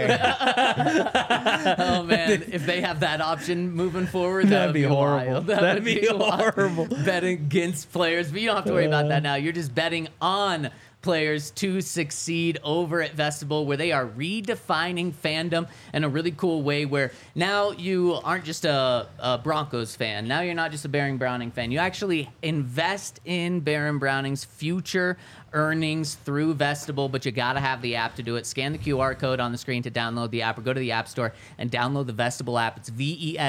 exactly. Oh man, if they have that option moving forward, that'd be horrible. Wild. That'd be horrible. Betting against players, but you don't have to worry about that now. You're just betting on players to succeed over at Vestibule, where they are redefining fandom in a really cool way, where now you aren't just a Broncos fan. Now you're not just a Baron Browning fan. You actually invest in Baron Browning's future earnings through Vestibule, but you got to have the app to do it. Scan the QR code on the screen to download the app, or go to the App Store and download the Vestibule app. It's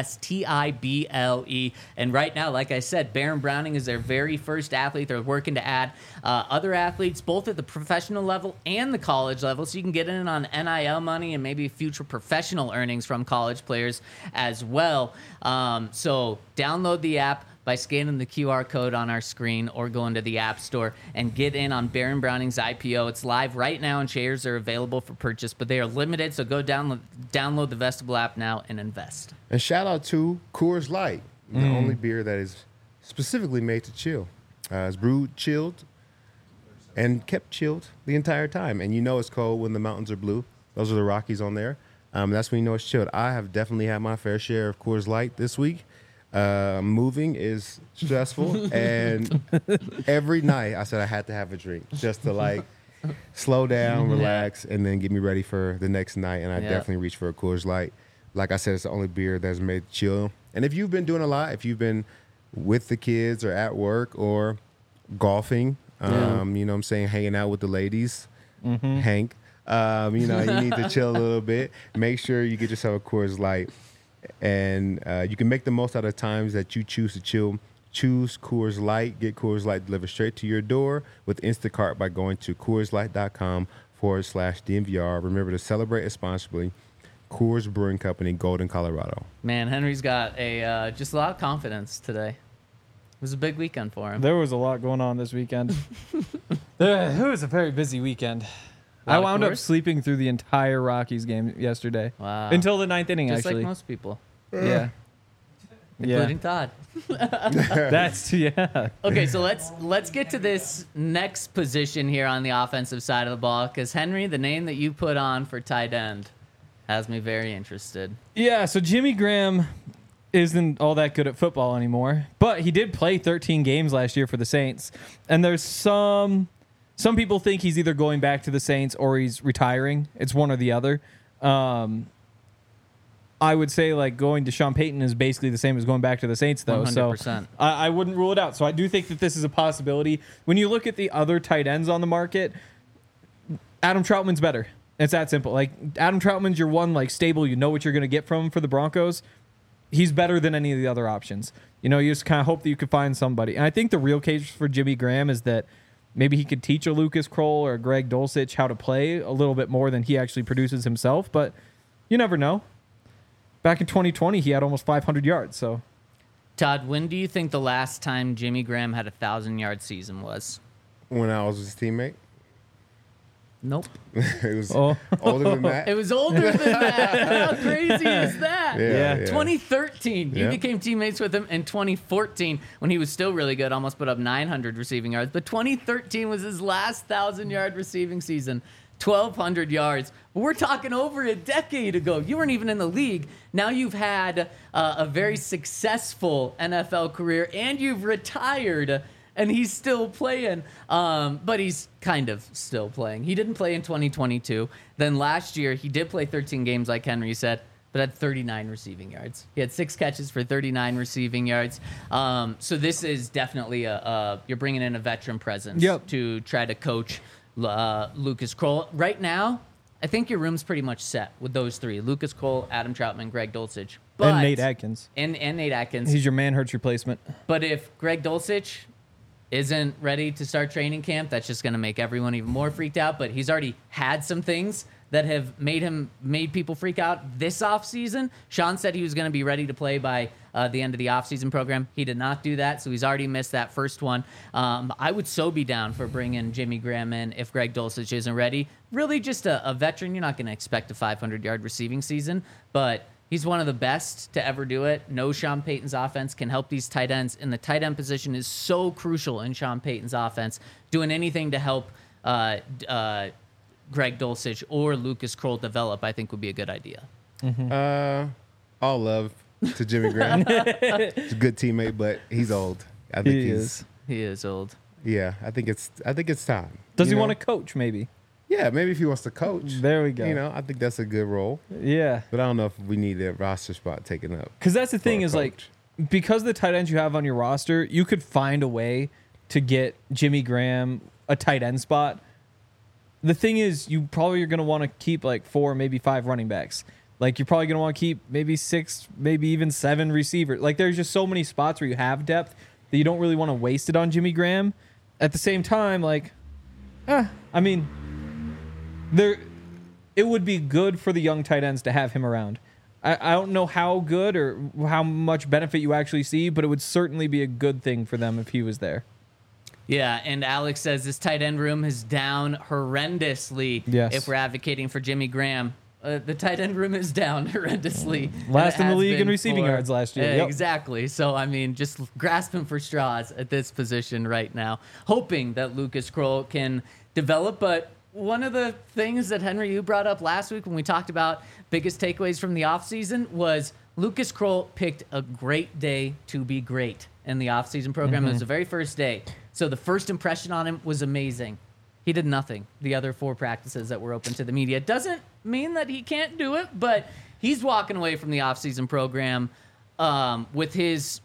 Vestible. And right now, like I said, Baron Browning is their very first athlete. They're working to add other athletes, both at the professional level and the college level, so you can get in on NIL money and maybe future professional earnings from college players as well. So download the app by scanning the QR code on our screen, or go into the App Store and get in on Baron Browning's IPO. It's live right now, and shares are available for purchase, but they are limited, so go download the Vestibule app now and invest. And shout out to Coors Light, the only beer that is specifically made to chill. It's brewed chilled and kept chilled the entire time. And you know it's cold when the mountains are blue. Those are the Rockies on there. That's when you know it's chilled. I have definitely had my fair share of Coors Light this week. Moving is stressful, and every night I said I had to have a drink just to like slow down, relax, and then get me ready for the next night. And I definitely reached for a Coors Light. Like I said, it's the only beer that's made chill. And if you've been doing a lot, if you've been with the kids or at work or golfing, you know what I'm saying, hanging out with the ladies, Hank, you know, you need to chill a little bit. Make sure you get yourself a Coors Light. And you can make the most out of times that you choose to chill. Choose Coors Light. Get Coors Light delivered straight to your door with Instacart by going to CoorsLight.com/DNVR. Remember to celebrate responsibly. Coors Brewing Company, Golden, Colorado. Man, Henry's got just a lot of confidence today. It was a big weekend for him. There was a lot going on this weekend. It was a very busy weekend. I wound up sleeping through the entire Rockies game yesterday. Wow. Until the ninth inning, just actually. like most people. Yeah. Including Todd. Okay, so let's get to this next position here on the offensive side of the ball, because Henry, the name that you put on for tight end has me very interested. Yeah, so Jimmy Graham isn't all that good at football anymore, but he did play 13 games last year for the Saints, and there's some people think he's either going back to the Saints or he's retiring. It's one or the other. I would say like going to Sean Payton is basically the same as going back to the Saints, though. 100%. So I wouldn't rule it out. So I do think that this is a possibility. When you look at the other tight ends on the market, Adam Troutman's better. It's that simple. Like Adam Troutman's your one like stable. You know what you're going to get from him for the Broncos. He's better than any of the other options. You know, you just kind of hope that you could find somebody. And I think the real case for Jimmy Graham is that maybe he could teach a Lucas Kroll or a Greg Dulcich how to play a little bit more than he actually produces himself. But you never know. Back in 2020, he had almost 500 yards. So, Todd, when do you think the last time Jimmy Graham had a 1,000-yard season was? When I was his teammate. Nope. It was older than that. It was older than that. How crazy is that? Yeah. 2013. You Yeah. became teammates with him in 2014 when he was still really good, almost put up 900 receiving yards. But 2013 was his last 1,000-yard receiving season, 1,200 yards. But we're talking over a decade ago. You weren't even in the league. Now you've had a very successful NFL career, and you've retired. And he's still playing, but he's kind of still playing. He didn't play in 2022. Then last year, he did play 13 games, like Henry said, but had 39 receiving yards. He had 6 catches for 39 receiving yards. So this is definitely you're bringing in a veteran presence to try to coach Lucas Krull. Right now, I think your room's pretty much set with those 3: Lucas Krull, Adam Troutman, Greg Dulcich. But, and Nate Atkins. And Nate Atkins. He's your Manhurts replacement. But if Greg Dulcich isn't ready to start training camp, that's just going to make everyone even more freaked out. But he's already had some things that have made people freak out this offseason. Sean said he was going to be ready to play by the end of the offseason program. He did not do that, so he's already missed that first one. I would so be down for bringing Jimmy Graham in if Greg Dulcich isn't ready. Really just a veteran. You're not going to expect a 500-yard receiving season, but he's one of the best to ever do it. No, Sean Payton's offense can help these tight ends, and the tight end position is so crucial in Sean Payton's offense. Doing anything to help Greg Dulcich or Lucas Krull develop, I think, would be a good idea. All love to Jimmy Graham. He's a good teammate, but he's old. I think He is old. Yeah, I think it's time. Does he want to coach? Maybe. Yeah, maybe if he wants to coach. There we go. I think that's a good role. Yeah. But I don't know if we need a roster spot taken up. Because that's the thing is, like, because the tight ends you have on your roster, you could find a way to get Jimmy Graham a tight end spot. The thing is, you probably are going to want to keep, like, 4, maybe 5 running backs. Like, you're probably going to want to keep maybe 6, maybe even 7 receivers. Like, there's just so many spots where you have depth that you don't really want to waste it on Jimmy Graham. At the same time, like, I mean, it would be good for the young tight ends to have him around. I don't know how good or how much benefit you actually see, but it would certainly be a good thing for them if he was there. Yeah, and Alex says this tight end room is down horrendously if we're advocating for Jimmy Graham. The tight end room is down horrendously. Last in the league in receiving yards last year. Exactly. So, I mean, just grasping for straws at this position right now, hoping that Lucas Krull can develop. But one of the things that, Henry, you brought up last week when we talked about biggest takeaways from the offseason was Lucas Krull picked a great day to be great in the offseason program. It was the very first day. So the first impression on him was amazing. He did nothing the other 4 practices that were open to the media. It doesn't mean that he can't do it, but he's walking away from the offseason program with his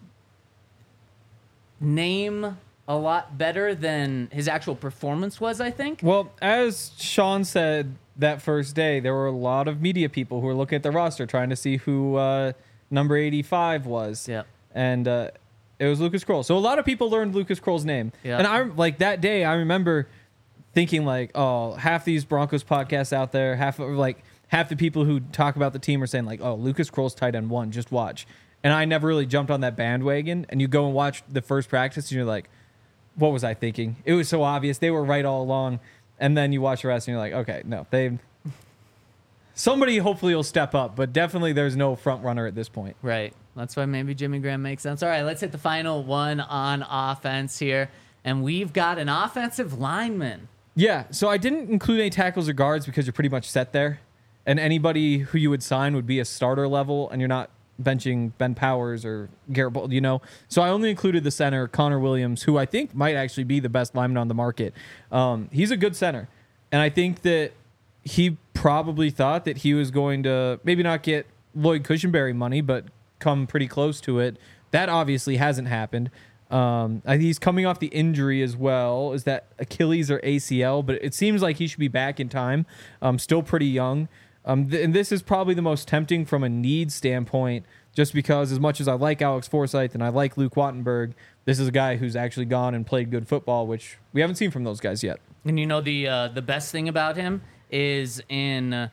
name a lot better than his actual performance was, I think. Well, as Sean said that first day, there were a lot of media people who were looking at the roster trying to see who number 85 was. Yeah. And it was Lucas Krull. So a lot of people learned Lucas Krull's name. Yeah. And I like that day, I remember thinking like, oh, half these Broncos podcasts out there, half the people who talk about the team are saying like, oh, Lucas Krull's tight end 1, just watch. And I never really jumped on that bandwagon. And you go and watch the first practice and you're like, what was I thinking? It was so obvious. They were right all along. And then you watch the rest and you're like, okay, no, somebody hopefully will step up, but definitely there's no front runner at this point. Right. That's why maybe Jimmy Graham makes sense. All right, let's hit the final one on offense here. And we've got an offensive lineman. Yeah, so I didn't include any tackles or guards because you're pretty much set there. And anybody who you would sign would be a starter level, and you're not benching Ben Powers or Garrett Bull, So I only included the center, Connor Williams, who I think might actually be the best lineman on the market. He's a good center. And I think that he probably thought that he was going to maybe not get Lloyd Cushenberry money, but come pretty close to it. That obviously hasn't happened. He's coming off the injury as well. Is that Achilles or ACL? But it seems like he should be back in time. Still pretty young. And this is probably the most tempting from a need standpoint, just because as much as I like Alex Forsyth and I like Luke Wattenberg, this is a guy who's actually gone and played good football, which we haven't seen from those guys yet. And the best thing about him is in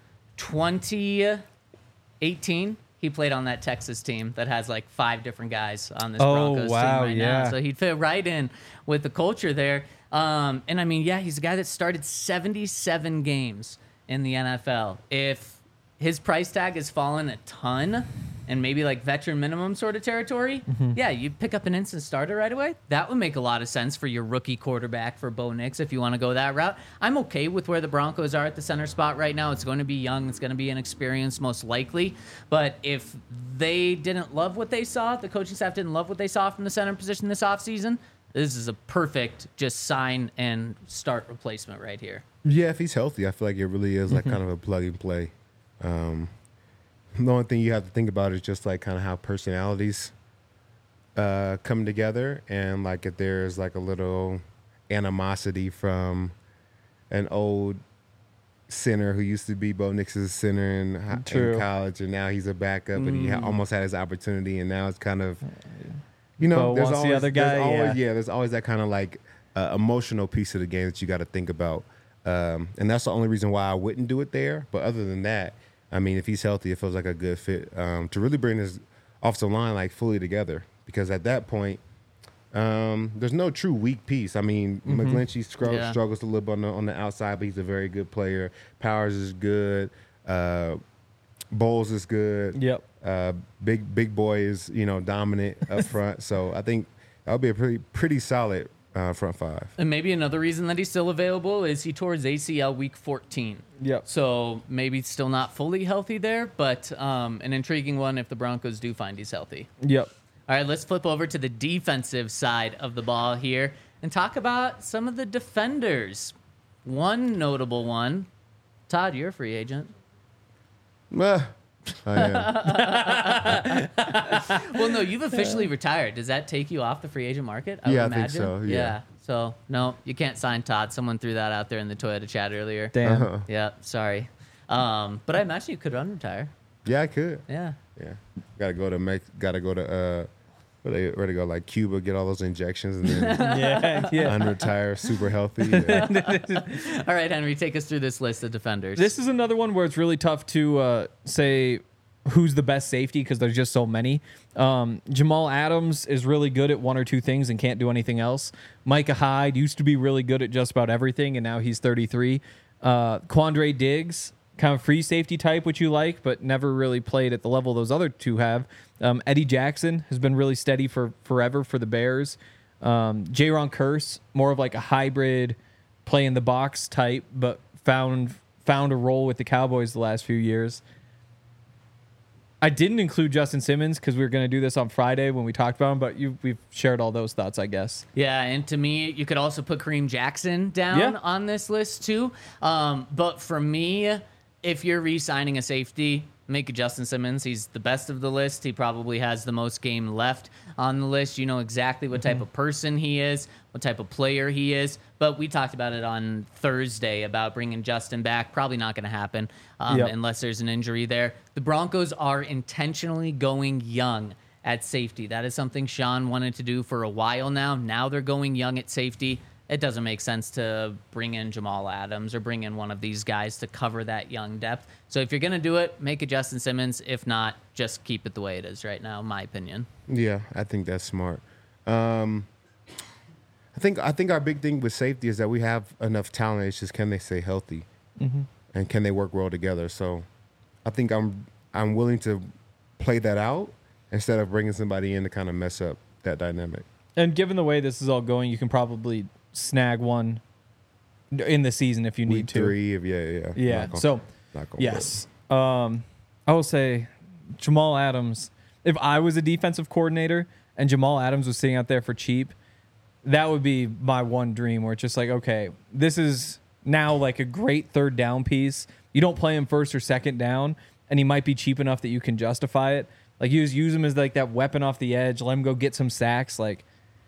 2018, he played on that Texas team that has like 5 different guys on this Broncos team right now. So he'd fit right in with the culture there. And I mean, yeah, he's a guy that started 77 games in the NFL. If his price tag has fallen a ton and maybe like veteran minimum sort of territory, yeah, you pick up an instant starter right away. That would make a lot of sense for your rookie quarterback for Bo Nix if you want to go that route. I'm okay with where the Broncos are at the center spot right now. It's going to be young. It's going to be inexperienced most likely. But if they didn't love what they saw, the coaching staff didn't love what they saw from the center position this offseason, this is a perfect just sign and start replacement right here. Yeah, if he's healthy, I feel like it really is like kind of a plug and play. The only thing you have to think about is just like kind of how personalities come together, and like if there's like a little animosity from an old center who used to be Bo Nix's center in college, and now he's a backup, and he almost had his opportunity, and now it's kind of, you know, there's always, the other guy, there's always that kind of like emotional piece of the game that you got to think about, and that's the only reason why I wouldn't do it there. But other than that, I mean, if he's healthy, it feels like a good fit to really bring his offensive line like fully together. Because at that point, there's no true weak piece. I mean, McGlinchey struggles a little bit on the outside, but he's a very good player. Powers is good. Bowles is good. Yep. Big boy is dominant up front. So I think that'll be a pretty solid front five. And maybe another reason that he's still available is he tore his ACL week 14. Yep. So maybe still not fully healthy there, but an intriguing one if the Broncos do find he's healthy. Yep. All right, let's flip over to the defensive side of the ball here and talk about some of the defenders. One notable one. Todd, you're a free agent. I am. Well, no, you've officially retired. Does that take you off the free agent market? I would imagine. I think so. Yeah. So, no, you can't sign Todd. Someone threw that out there in the Toyota chat earlier. Damn. Yeah, sorry. But I imagine you could unretire. Yeah, I could. Yeah. Gotta go to where to go, like Cuba, get all those injections, and then unretire super healthy. Yeah. All right, Henry, take us through this list of defenders. This is another one where it's really tough to say who's the best safety because there's just so many. Jamal Adams is really good at one or two things and can't do anything else. Micah Hyde used to be really good at just about everything, and now he's 33. Quandre Diggs, kind of free safety type, which you like, but never really played at the level those other two have. Eddie Jackson has been really steady for forever for the Bears. Jaron Kearse, more of like a hybrid play in the box type, but found a role with the Cowboys the last few years. I didn't include Justin Simmons because we were going to do this on Friday when we talked about him, but we've shared all those thoughts, I guess. Yeah, and to me, you could also put Kareem Jackson down on this list too. But for me, if you're re-signing a safety, make it Justin Simmons. He's the best of the list. He probably has the most game left on the list. You know exactly what type of person he is, what type of player he is. But we talked about it on Thursday about bringing Justin back. Probably not going to happen unless there's an injury there. The Broncos are intentionally going young at safety. That is something Sean wanted to do for a while now. Now they're going young at safety. It doesn't make sense to bring in Jamal Adams or bring in one of these guys to cover that young depth. So if you're going to do it, make it Justin Simmons. If not, just keep it the way it is right now, in my opinion. Yeah, I think that's smart. I think our big thing with safety is that we have enough talent. It's just, can they stay healthy? And can they work well together? So I think I'm willing to play that out instead of bringing somebody in to kind of mess up that dynamic. And given the way this is all going, you can probably snag one in the season if you need to. Week 3, yeah. So, yes. I will say Jamal Adams, if I was a defensive coordinator and Jamal Adams was sitting out there for cheap, that would be my one dream where it's just like, okay, this is now like a great third down piece. You don't play him first or second down, and he might be cheap enough that you can justify it. Like, you just use him as like that weapon off the edge, let him go get some sacks. Like,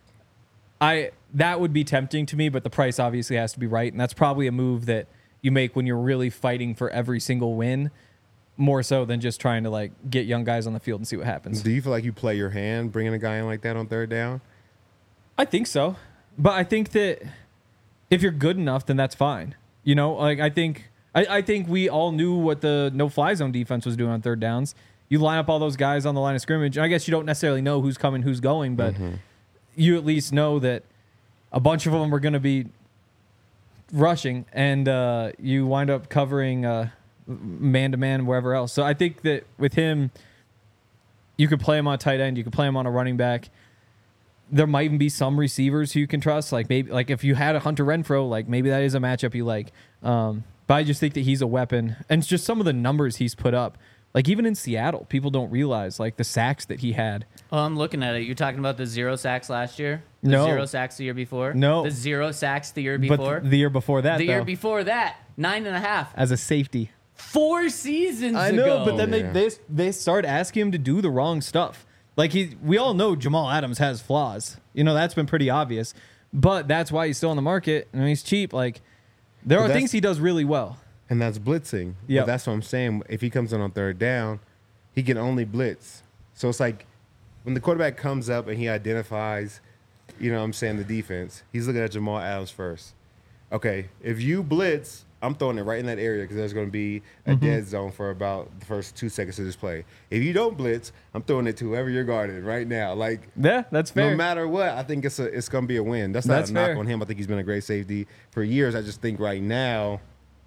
that would be tempting to me, but the price obviously has to be right, and that's probably a move that you make when you're really fighting for every single win, more so than just trying to like get young guys on the field and see what happens. Do you feel like you play your hand bringing a guy in like that on third down? I think so, but I think that if you're good enough, then that's fine. You know, like I think we all knew what the no-fly zone defense was doing on third downs. You line up all those guys on the line of scrimmage. I guess you don't necessarily know who's coming, who's going, but you at least know that a bunch of them are going to be rushing, and you wind up covering man-to-man wherever else. So I think that with him, you could play him on tight end, you could play him on a running back. There might even be some receivers who you can trust, like maybe like if you had a Hunter Renfrow, like maybe that is a matchup you like. But I just think that he's a weapon, and it's just some of the numbers he's put up. Like even in Seattle, people don't realize like the sacks that he had. Oh, I'm looking at it. You're talking about the 0 sacks last year? The No. 0 sacks the year before? No. The 0 sacks the year before? But the year before that, the though, year before that, 9.5. as a safety. 4 seasons I ago. know, but then Yeah. they start asking him to do the wrong stuff. Like we all know Jamal Adams has flaws. You know, that's been pretty obvious. But that's why he's still on the market and he's cheap. Like there But are that's- things he does really well. And that's blitzing. Yep. But that's what I'm saying. If he comes in on third down, he can only blitz. So it's like when the quarterback comes up and he identifies, you know what I'm saying, the defense, he's looking at Jamal Adams first. Okay, if you blitz, I'm throwing it right in that area because there's going to be a dead zone for about the first 2 seconds of this play. If you don't blitz, I'm throwing it to whoever you're guarding right now. Like, Yeah, that's fair. no matter what, I think it's going to be a win. That's not That's a knock fair. on him. I think he's been a great safety for years. I just think right now,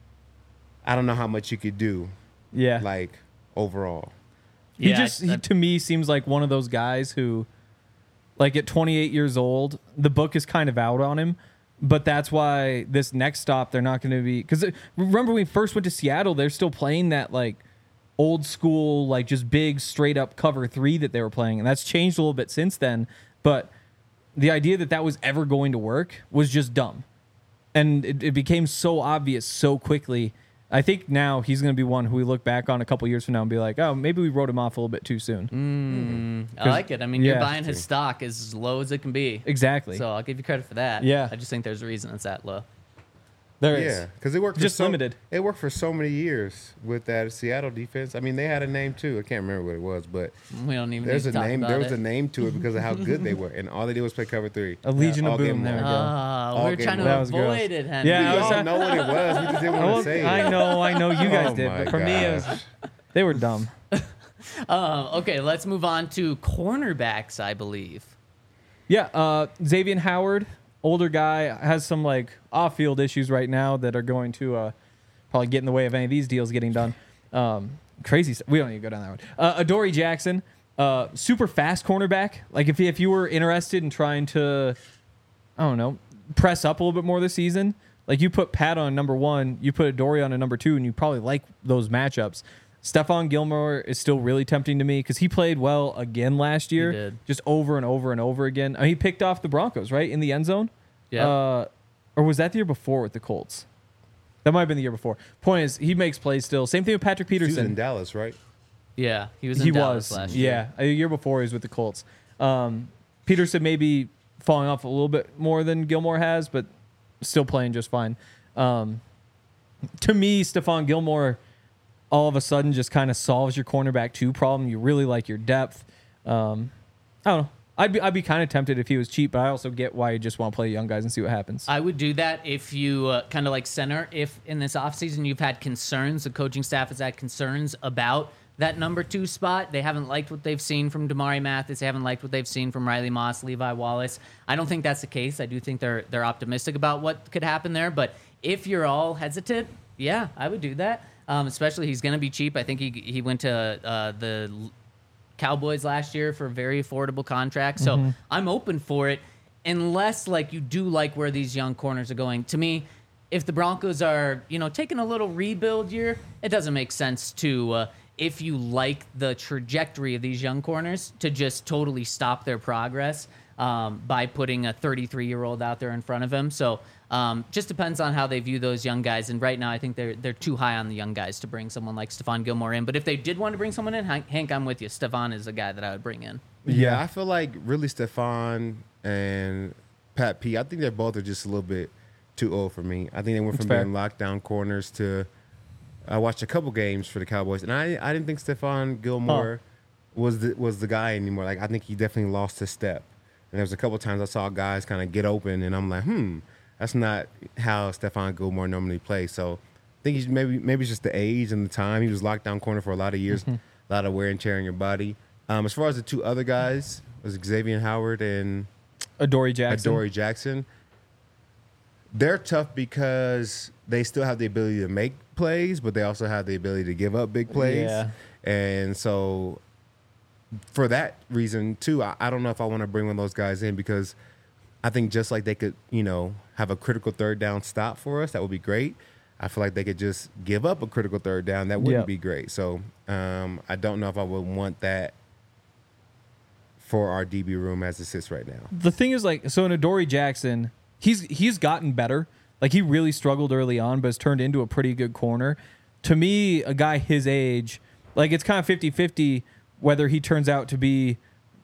I don't know how much you could do, Yeah. like, overall. He Yeah, just, to me, seems like one of those guys who, like at 28 years old, the book is kind of out on him. But that's why this next stop, they're not going to be. Because remember, when we first went to Seattle, they're still playing that, like, old school, like, just big, straight up cover 3 that they were playing. And that's changed a little bit since then. But the idea that that was ever going to work was just dumb. And it became so obvious so quickly. I think now he's going to be one who we look back on a couple years from now and be like, oh, maybe we wrote him off a little bit too soon. I like it. I mean, you're Yeah. buying his stock as low as it can be. Exactly. So I'll give you credit for that. Yeah. I just think there's a reason it's that low. There is. Yeah, because it worked. Just for limited. It worked for so many years with that Seattle defense. I mean, they had a name too. I can't remember what it was, but We don't even there's need a to talk name. about There was it. a name to it because of how good they were, and all they did was play cover 3. A Legion All of game Boom. There we long. go. All We're game trying to long. That was gross. avoid it, Henry. Yeah, We I was all know what it was. We just didn't want to say it. I know. You guys Oh did, my but for me, it was, gosh. they were dumb. Okay, let's move on to cornerbacks, I believe. Yeah, Xavier Howard, older guy, has some like off-field issues right now that are going to probably get in the way of any of these deals getting done. Crazy stuff. We don't need to go down that road. Adoree Jackson, super fast cornerback. Like if you were interested in trying to, I don't know, press up a little bit more this season, like you put Pat on number 1, you put Adoree on a number 2, and you probably like those matchups. Stephon Gilmore is still really tempting to me because he played well again last year, did. just over and over and over again. I mean, he picked off the Broncos, right, in the end zone? Yeah. Or was that the year before with the Colts? That might have been the year before. Point is, he makes plays still. Same thing with Patrick He was in Peterson. Dallas, right? Yeah, he was in Dallas last year. Yeah, a year before he was with the Colts. Peterson maybe falling off a little bit more than Gilmore has, but still playing just fine. To me, Stephon Gilmore all of a sudden just kind of solves your cornerback 2 problem. You really like your depth. I don't know. I'd be kind of tempted if he was cheap, but I also get why you just want to play young guys and see what happens. I would do that if you kind of like center. If in this offseason you've had concerns, the coaching staff has had concerns about that number 2 spot. They haven't liked what they've seen from Damari Mathis. They haven't liked what they've seen from Riley Moss, Levi Wallace. I don't think that's the case. I do think they're optimistic about what could happen there. But if you're all hesitant, yeah, I would do that. Especially he's going to be cheap. I think he went to the Cowboys last year for a very affordable contract. So I'm open for it unless like you do like where these young corners are going. To me, if the Broncos are, taking a little rebuild year, it doesn't make sense to if you like the trajectory of these young corners to just totally stop their progress by putting a 33-year-old out there in front of him. So just depends on how they view those young guys. And right now, I think they're too high on the young guys to bring someone like Stephon Gilmore in. But if they did want to bring someone in, Hank, I'm with you. Stephon is the guy that I would bring in. Yeah, I feel like really Stephon and Pat P. I think they both are just a little bit too old for me. I think they went That's from fair. being lockdown corners to. I watched a couple games for the Cowboys, and I didn't think Stephon Gilmore was the guy anymore. Like I think he definitely lost his step. And there was a couple times I saw guys kind of get open, and I'm like, that's not how Stephon Gilmore normally plays. So I think he's maybe it's just the age and the time. He was locked down corner for a lot of years, a lot of wear and tear in your body. As far as the 2 other guys, was Xavier Howard and Adoree Jackson. Adoree Jackson. they're tough because they still have the ability to make plays, but they also have the ability to give up big plays. Yeah. And so for that reason, too, I don't know if I want to bring one of those guys in because I think just like they could, have a critical third down stop for us, that would be great. I feel like they could just give up a critical third down. That wouldn't be great. So I don't know if I would want that for our DB room as it sits right now. The thing is, so in Adoree Jackson, he's gotten better. Like, he really struggled early on, but has turned into a pretty good corner. To me, a guy his age, it's kind of 50-50 whether he turns out to be,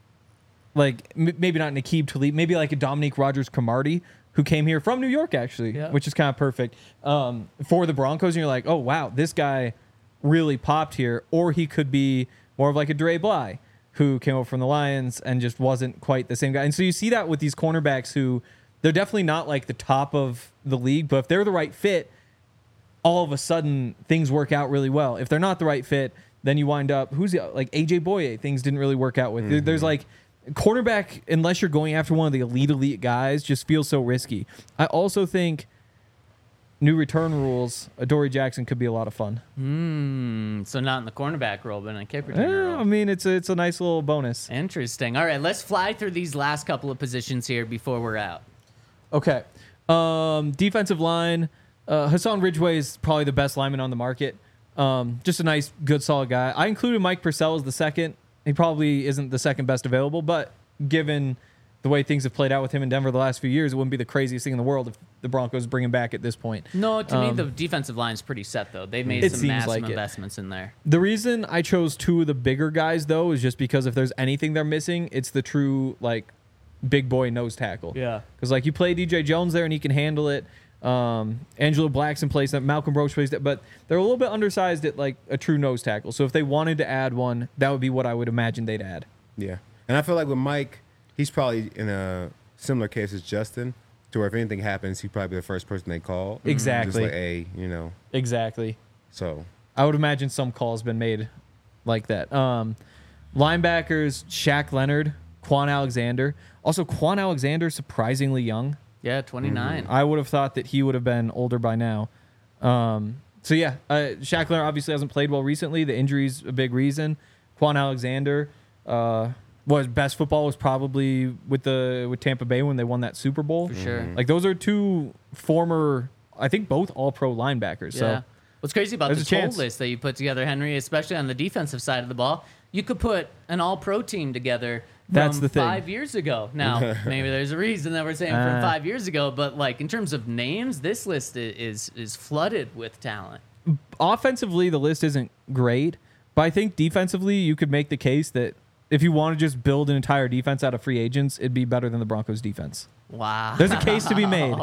maybe not Nakeem Talib, maybe like a Dominique Rodgers-Cromartie, who came here from New York, actually, which is kind of perfect for the Broncos. And you're like, oh, wow, this guy really popped here. Or he could be more of like a Dre Bly, who came over from the Lions and just wasn't quite the same guy. And so you see that with these cornerbacks who they're definitely not like the top of the league, but if they're the right fit, all of a sudden things work out really well. If they're not the right fit, then you wind up, like AJ Boye, things didn't really work out with. Mm-hmm. There's quarterback, unless you're going after one of the elite guys, just feels so risky. I also think new return rules, Adoree Jackson could be a lot of fun. So not in the cornerback role, but in a kick returner role. I mean, it's a nice little bonus. Interesting. All right, let's fly through these last couple of positions here before we're out. Okay. Defensive line, Hassan Ridgeway is probably the best lineman on the market. Just a nice, good, solid guy. I included Mike Purcell as the second. He probably isn't the second best available, but given the way things have played out with him in Denver the last few years, it wouldn't be the craziest thing in the world if the Broncos bring him back at this point. No, to me, the defensive line's pretty set, though. They've made some massive investments in there. The reason I chose two of the bigger guys, though, is just because if there's anything they're missing, it's the true, big boy nose tackle. Yeah. Because, you play DJ Jones there and he can handle it. Angelo Blackson plays that. Malcolm Roach plays that. But they're a little bit undersized at, a true nose tackle. So if they wanted to add one, that would be what I would imagine they'd add. Yeah. And I feel like with Mike, he's probably in a similar case as Justin, to where if anything happens, he'd probably be the first person they call. Exactly. Just Exactly. So I would imagine some call's been made like that. Linebackers, Shaq Leonard, Quan Alexander. Also, Quan Alexander, surprisingly young. Yeah, 29. I would have thought that he would have been older by now. Shaq Leonard obviously hasn't played well recently. The injury's a big reason. Quan Alexander, best football was probably with Tampa Bay when they won that Super Bowl. For sure. Those are two former, I think both all-pro linebackers. Yeah. So what's crazy about the total list that you put together, Henry, especially on the defensive side of the ball, you could put an all-pro team together That's the thing. 5 years ago. Now, maybe there's a reason that we're saying from 5 years ago, but in terms of names, this list is flooded with talent. Offensively, the list isn't great, but I think defensively, you could make the case that if you want to just build an entire defense out of free agents, it'd be better than the Broncos defense. Wow. There's a case to be made.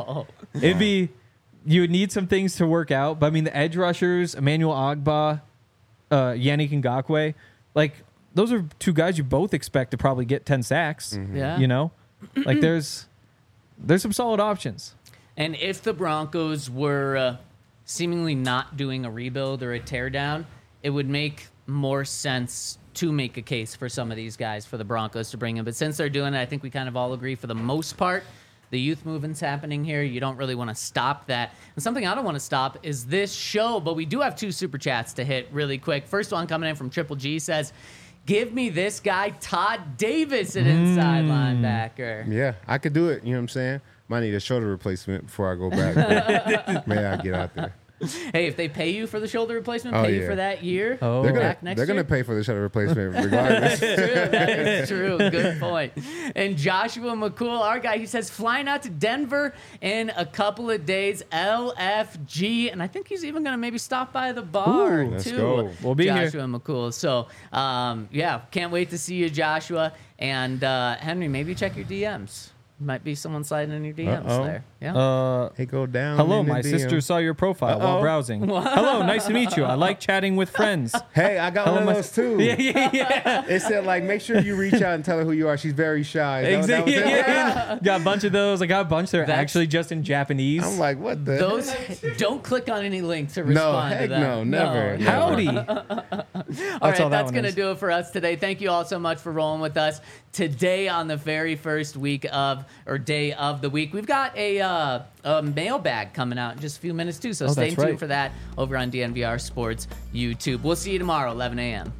You would need some things to work out, but I mean, the edge rushers, Emmanuel Ogbah, Yannick Ngakoue, those are two guys you both expect to probably get 10 sacks. Mm-hmm. Yeah. There's some solid options. And if the Broncos were seemingly not doing a rebuild or a teardown, it would make more sense to make a case for some of these guys for the Broncos to bring in. But since they're doing it, I think we kind of all agree for the most part, the youth movement's happening here. You don't really want to stop that. And something I don't want to stop is this show, but we do have 2 super chats to hit really quick. First one coming in from Triple G says, give me this guy, Todd Davis, an inside linebacker. Yeah, I could do it. You know what I'm saying? Might need a shoulder replacement before I go back. May I get out there? Hey, if they pay you for the shoulder replacement, pay you for that year, they're gonna pay for the shoulder replacement regardless. That is true. Good point. And Joshua McCool, our guy, he says, flying out to Denver in a couple of days, LFG. And I think he's even going to maybe stop by the bar, let's too. go. We'll be here. Joshua McCool. So, can't wait to see you, Joshua. And Henry, maybe check your DMs. Might be someone sliding in your DMs there. Yeah. Hey, go down. Hello, my sister saw your profile while browsing. Hello, nice to meet you. I like chatting with friends. Hey, I got one of those too. Yeah. It said make sure you reach out and tell her who you are. She's very shy. Exactly. Got a bunch of those. I got a bunch that are actually just in Japanese. I'm like, what the? Don't click on any link to respond to that. No, never. Howdy. All right, that's going to do it for us today. Thank you all so much for rolling with us today on the very first day of the week. We've got a mailbag coming out in just a few minutes too, so stay tuned for that over on DNVR Sports YouTube. We'll see you tomorrow, 11 a.m.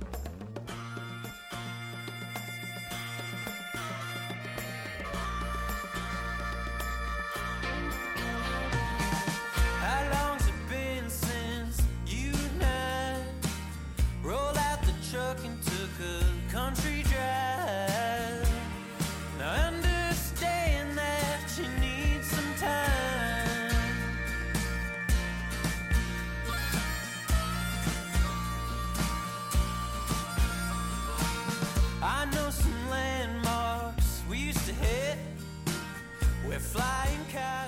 Flying car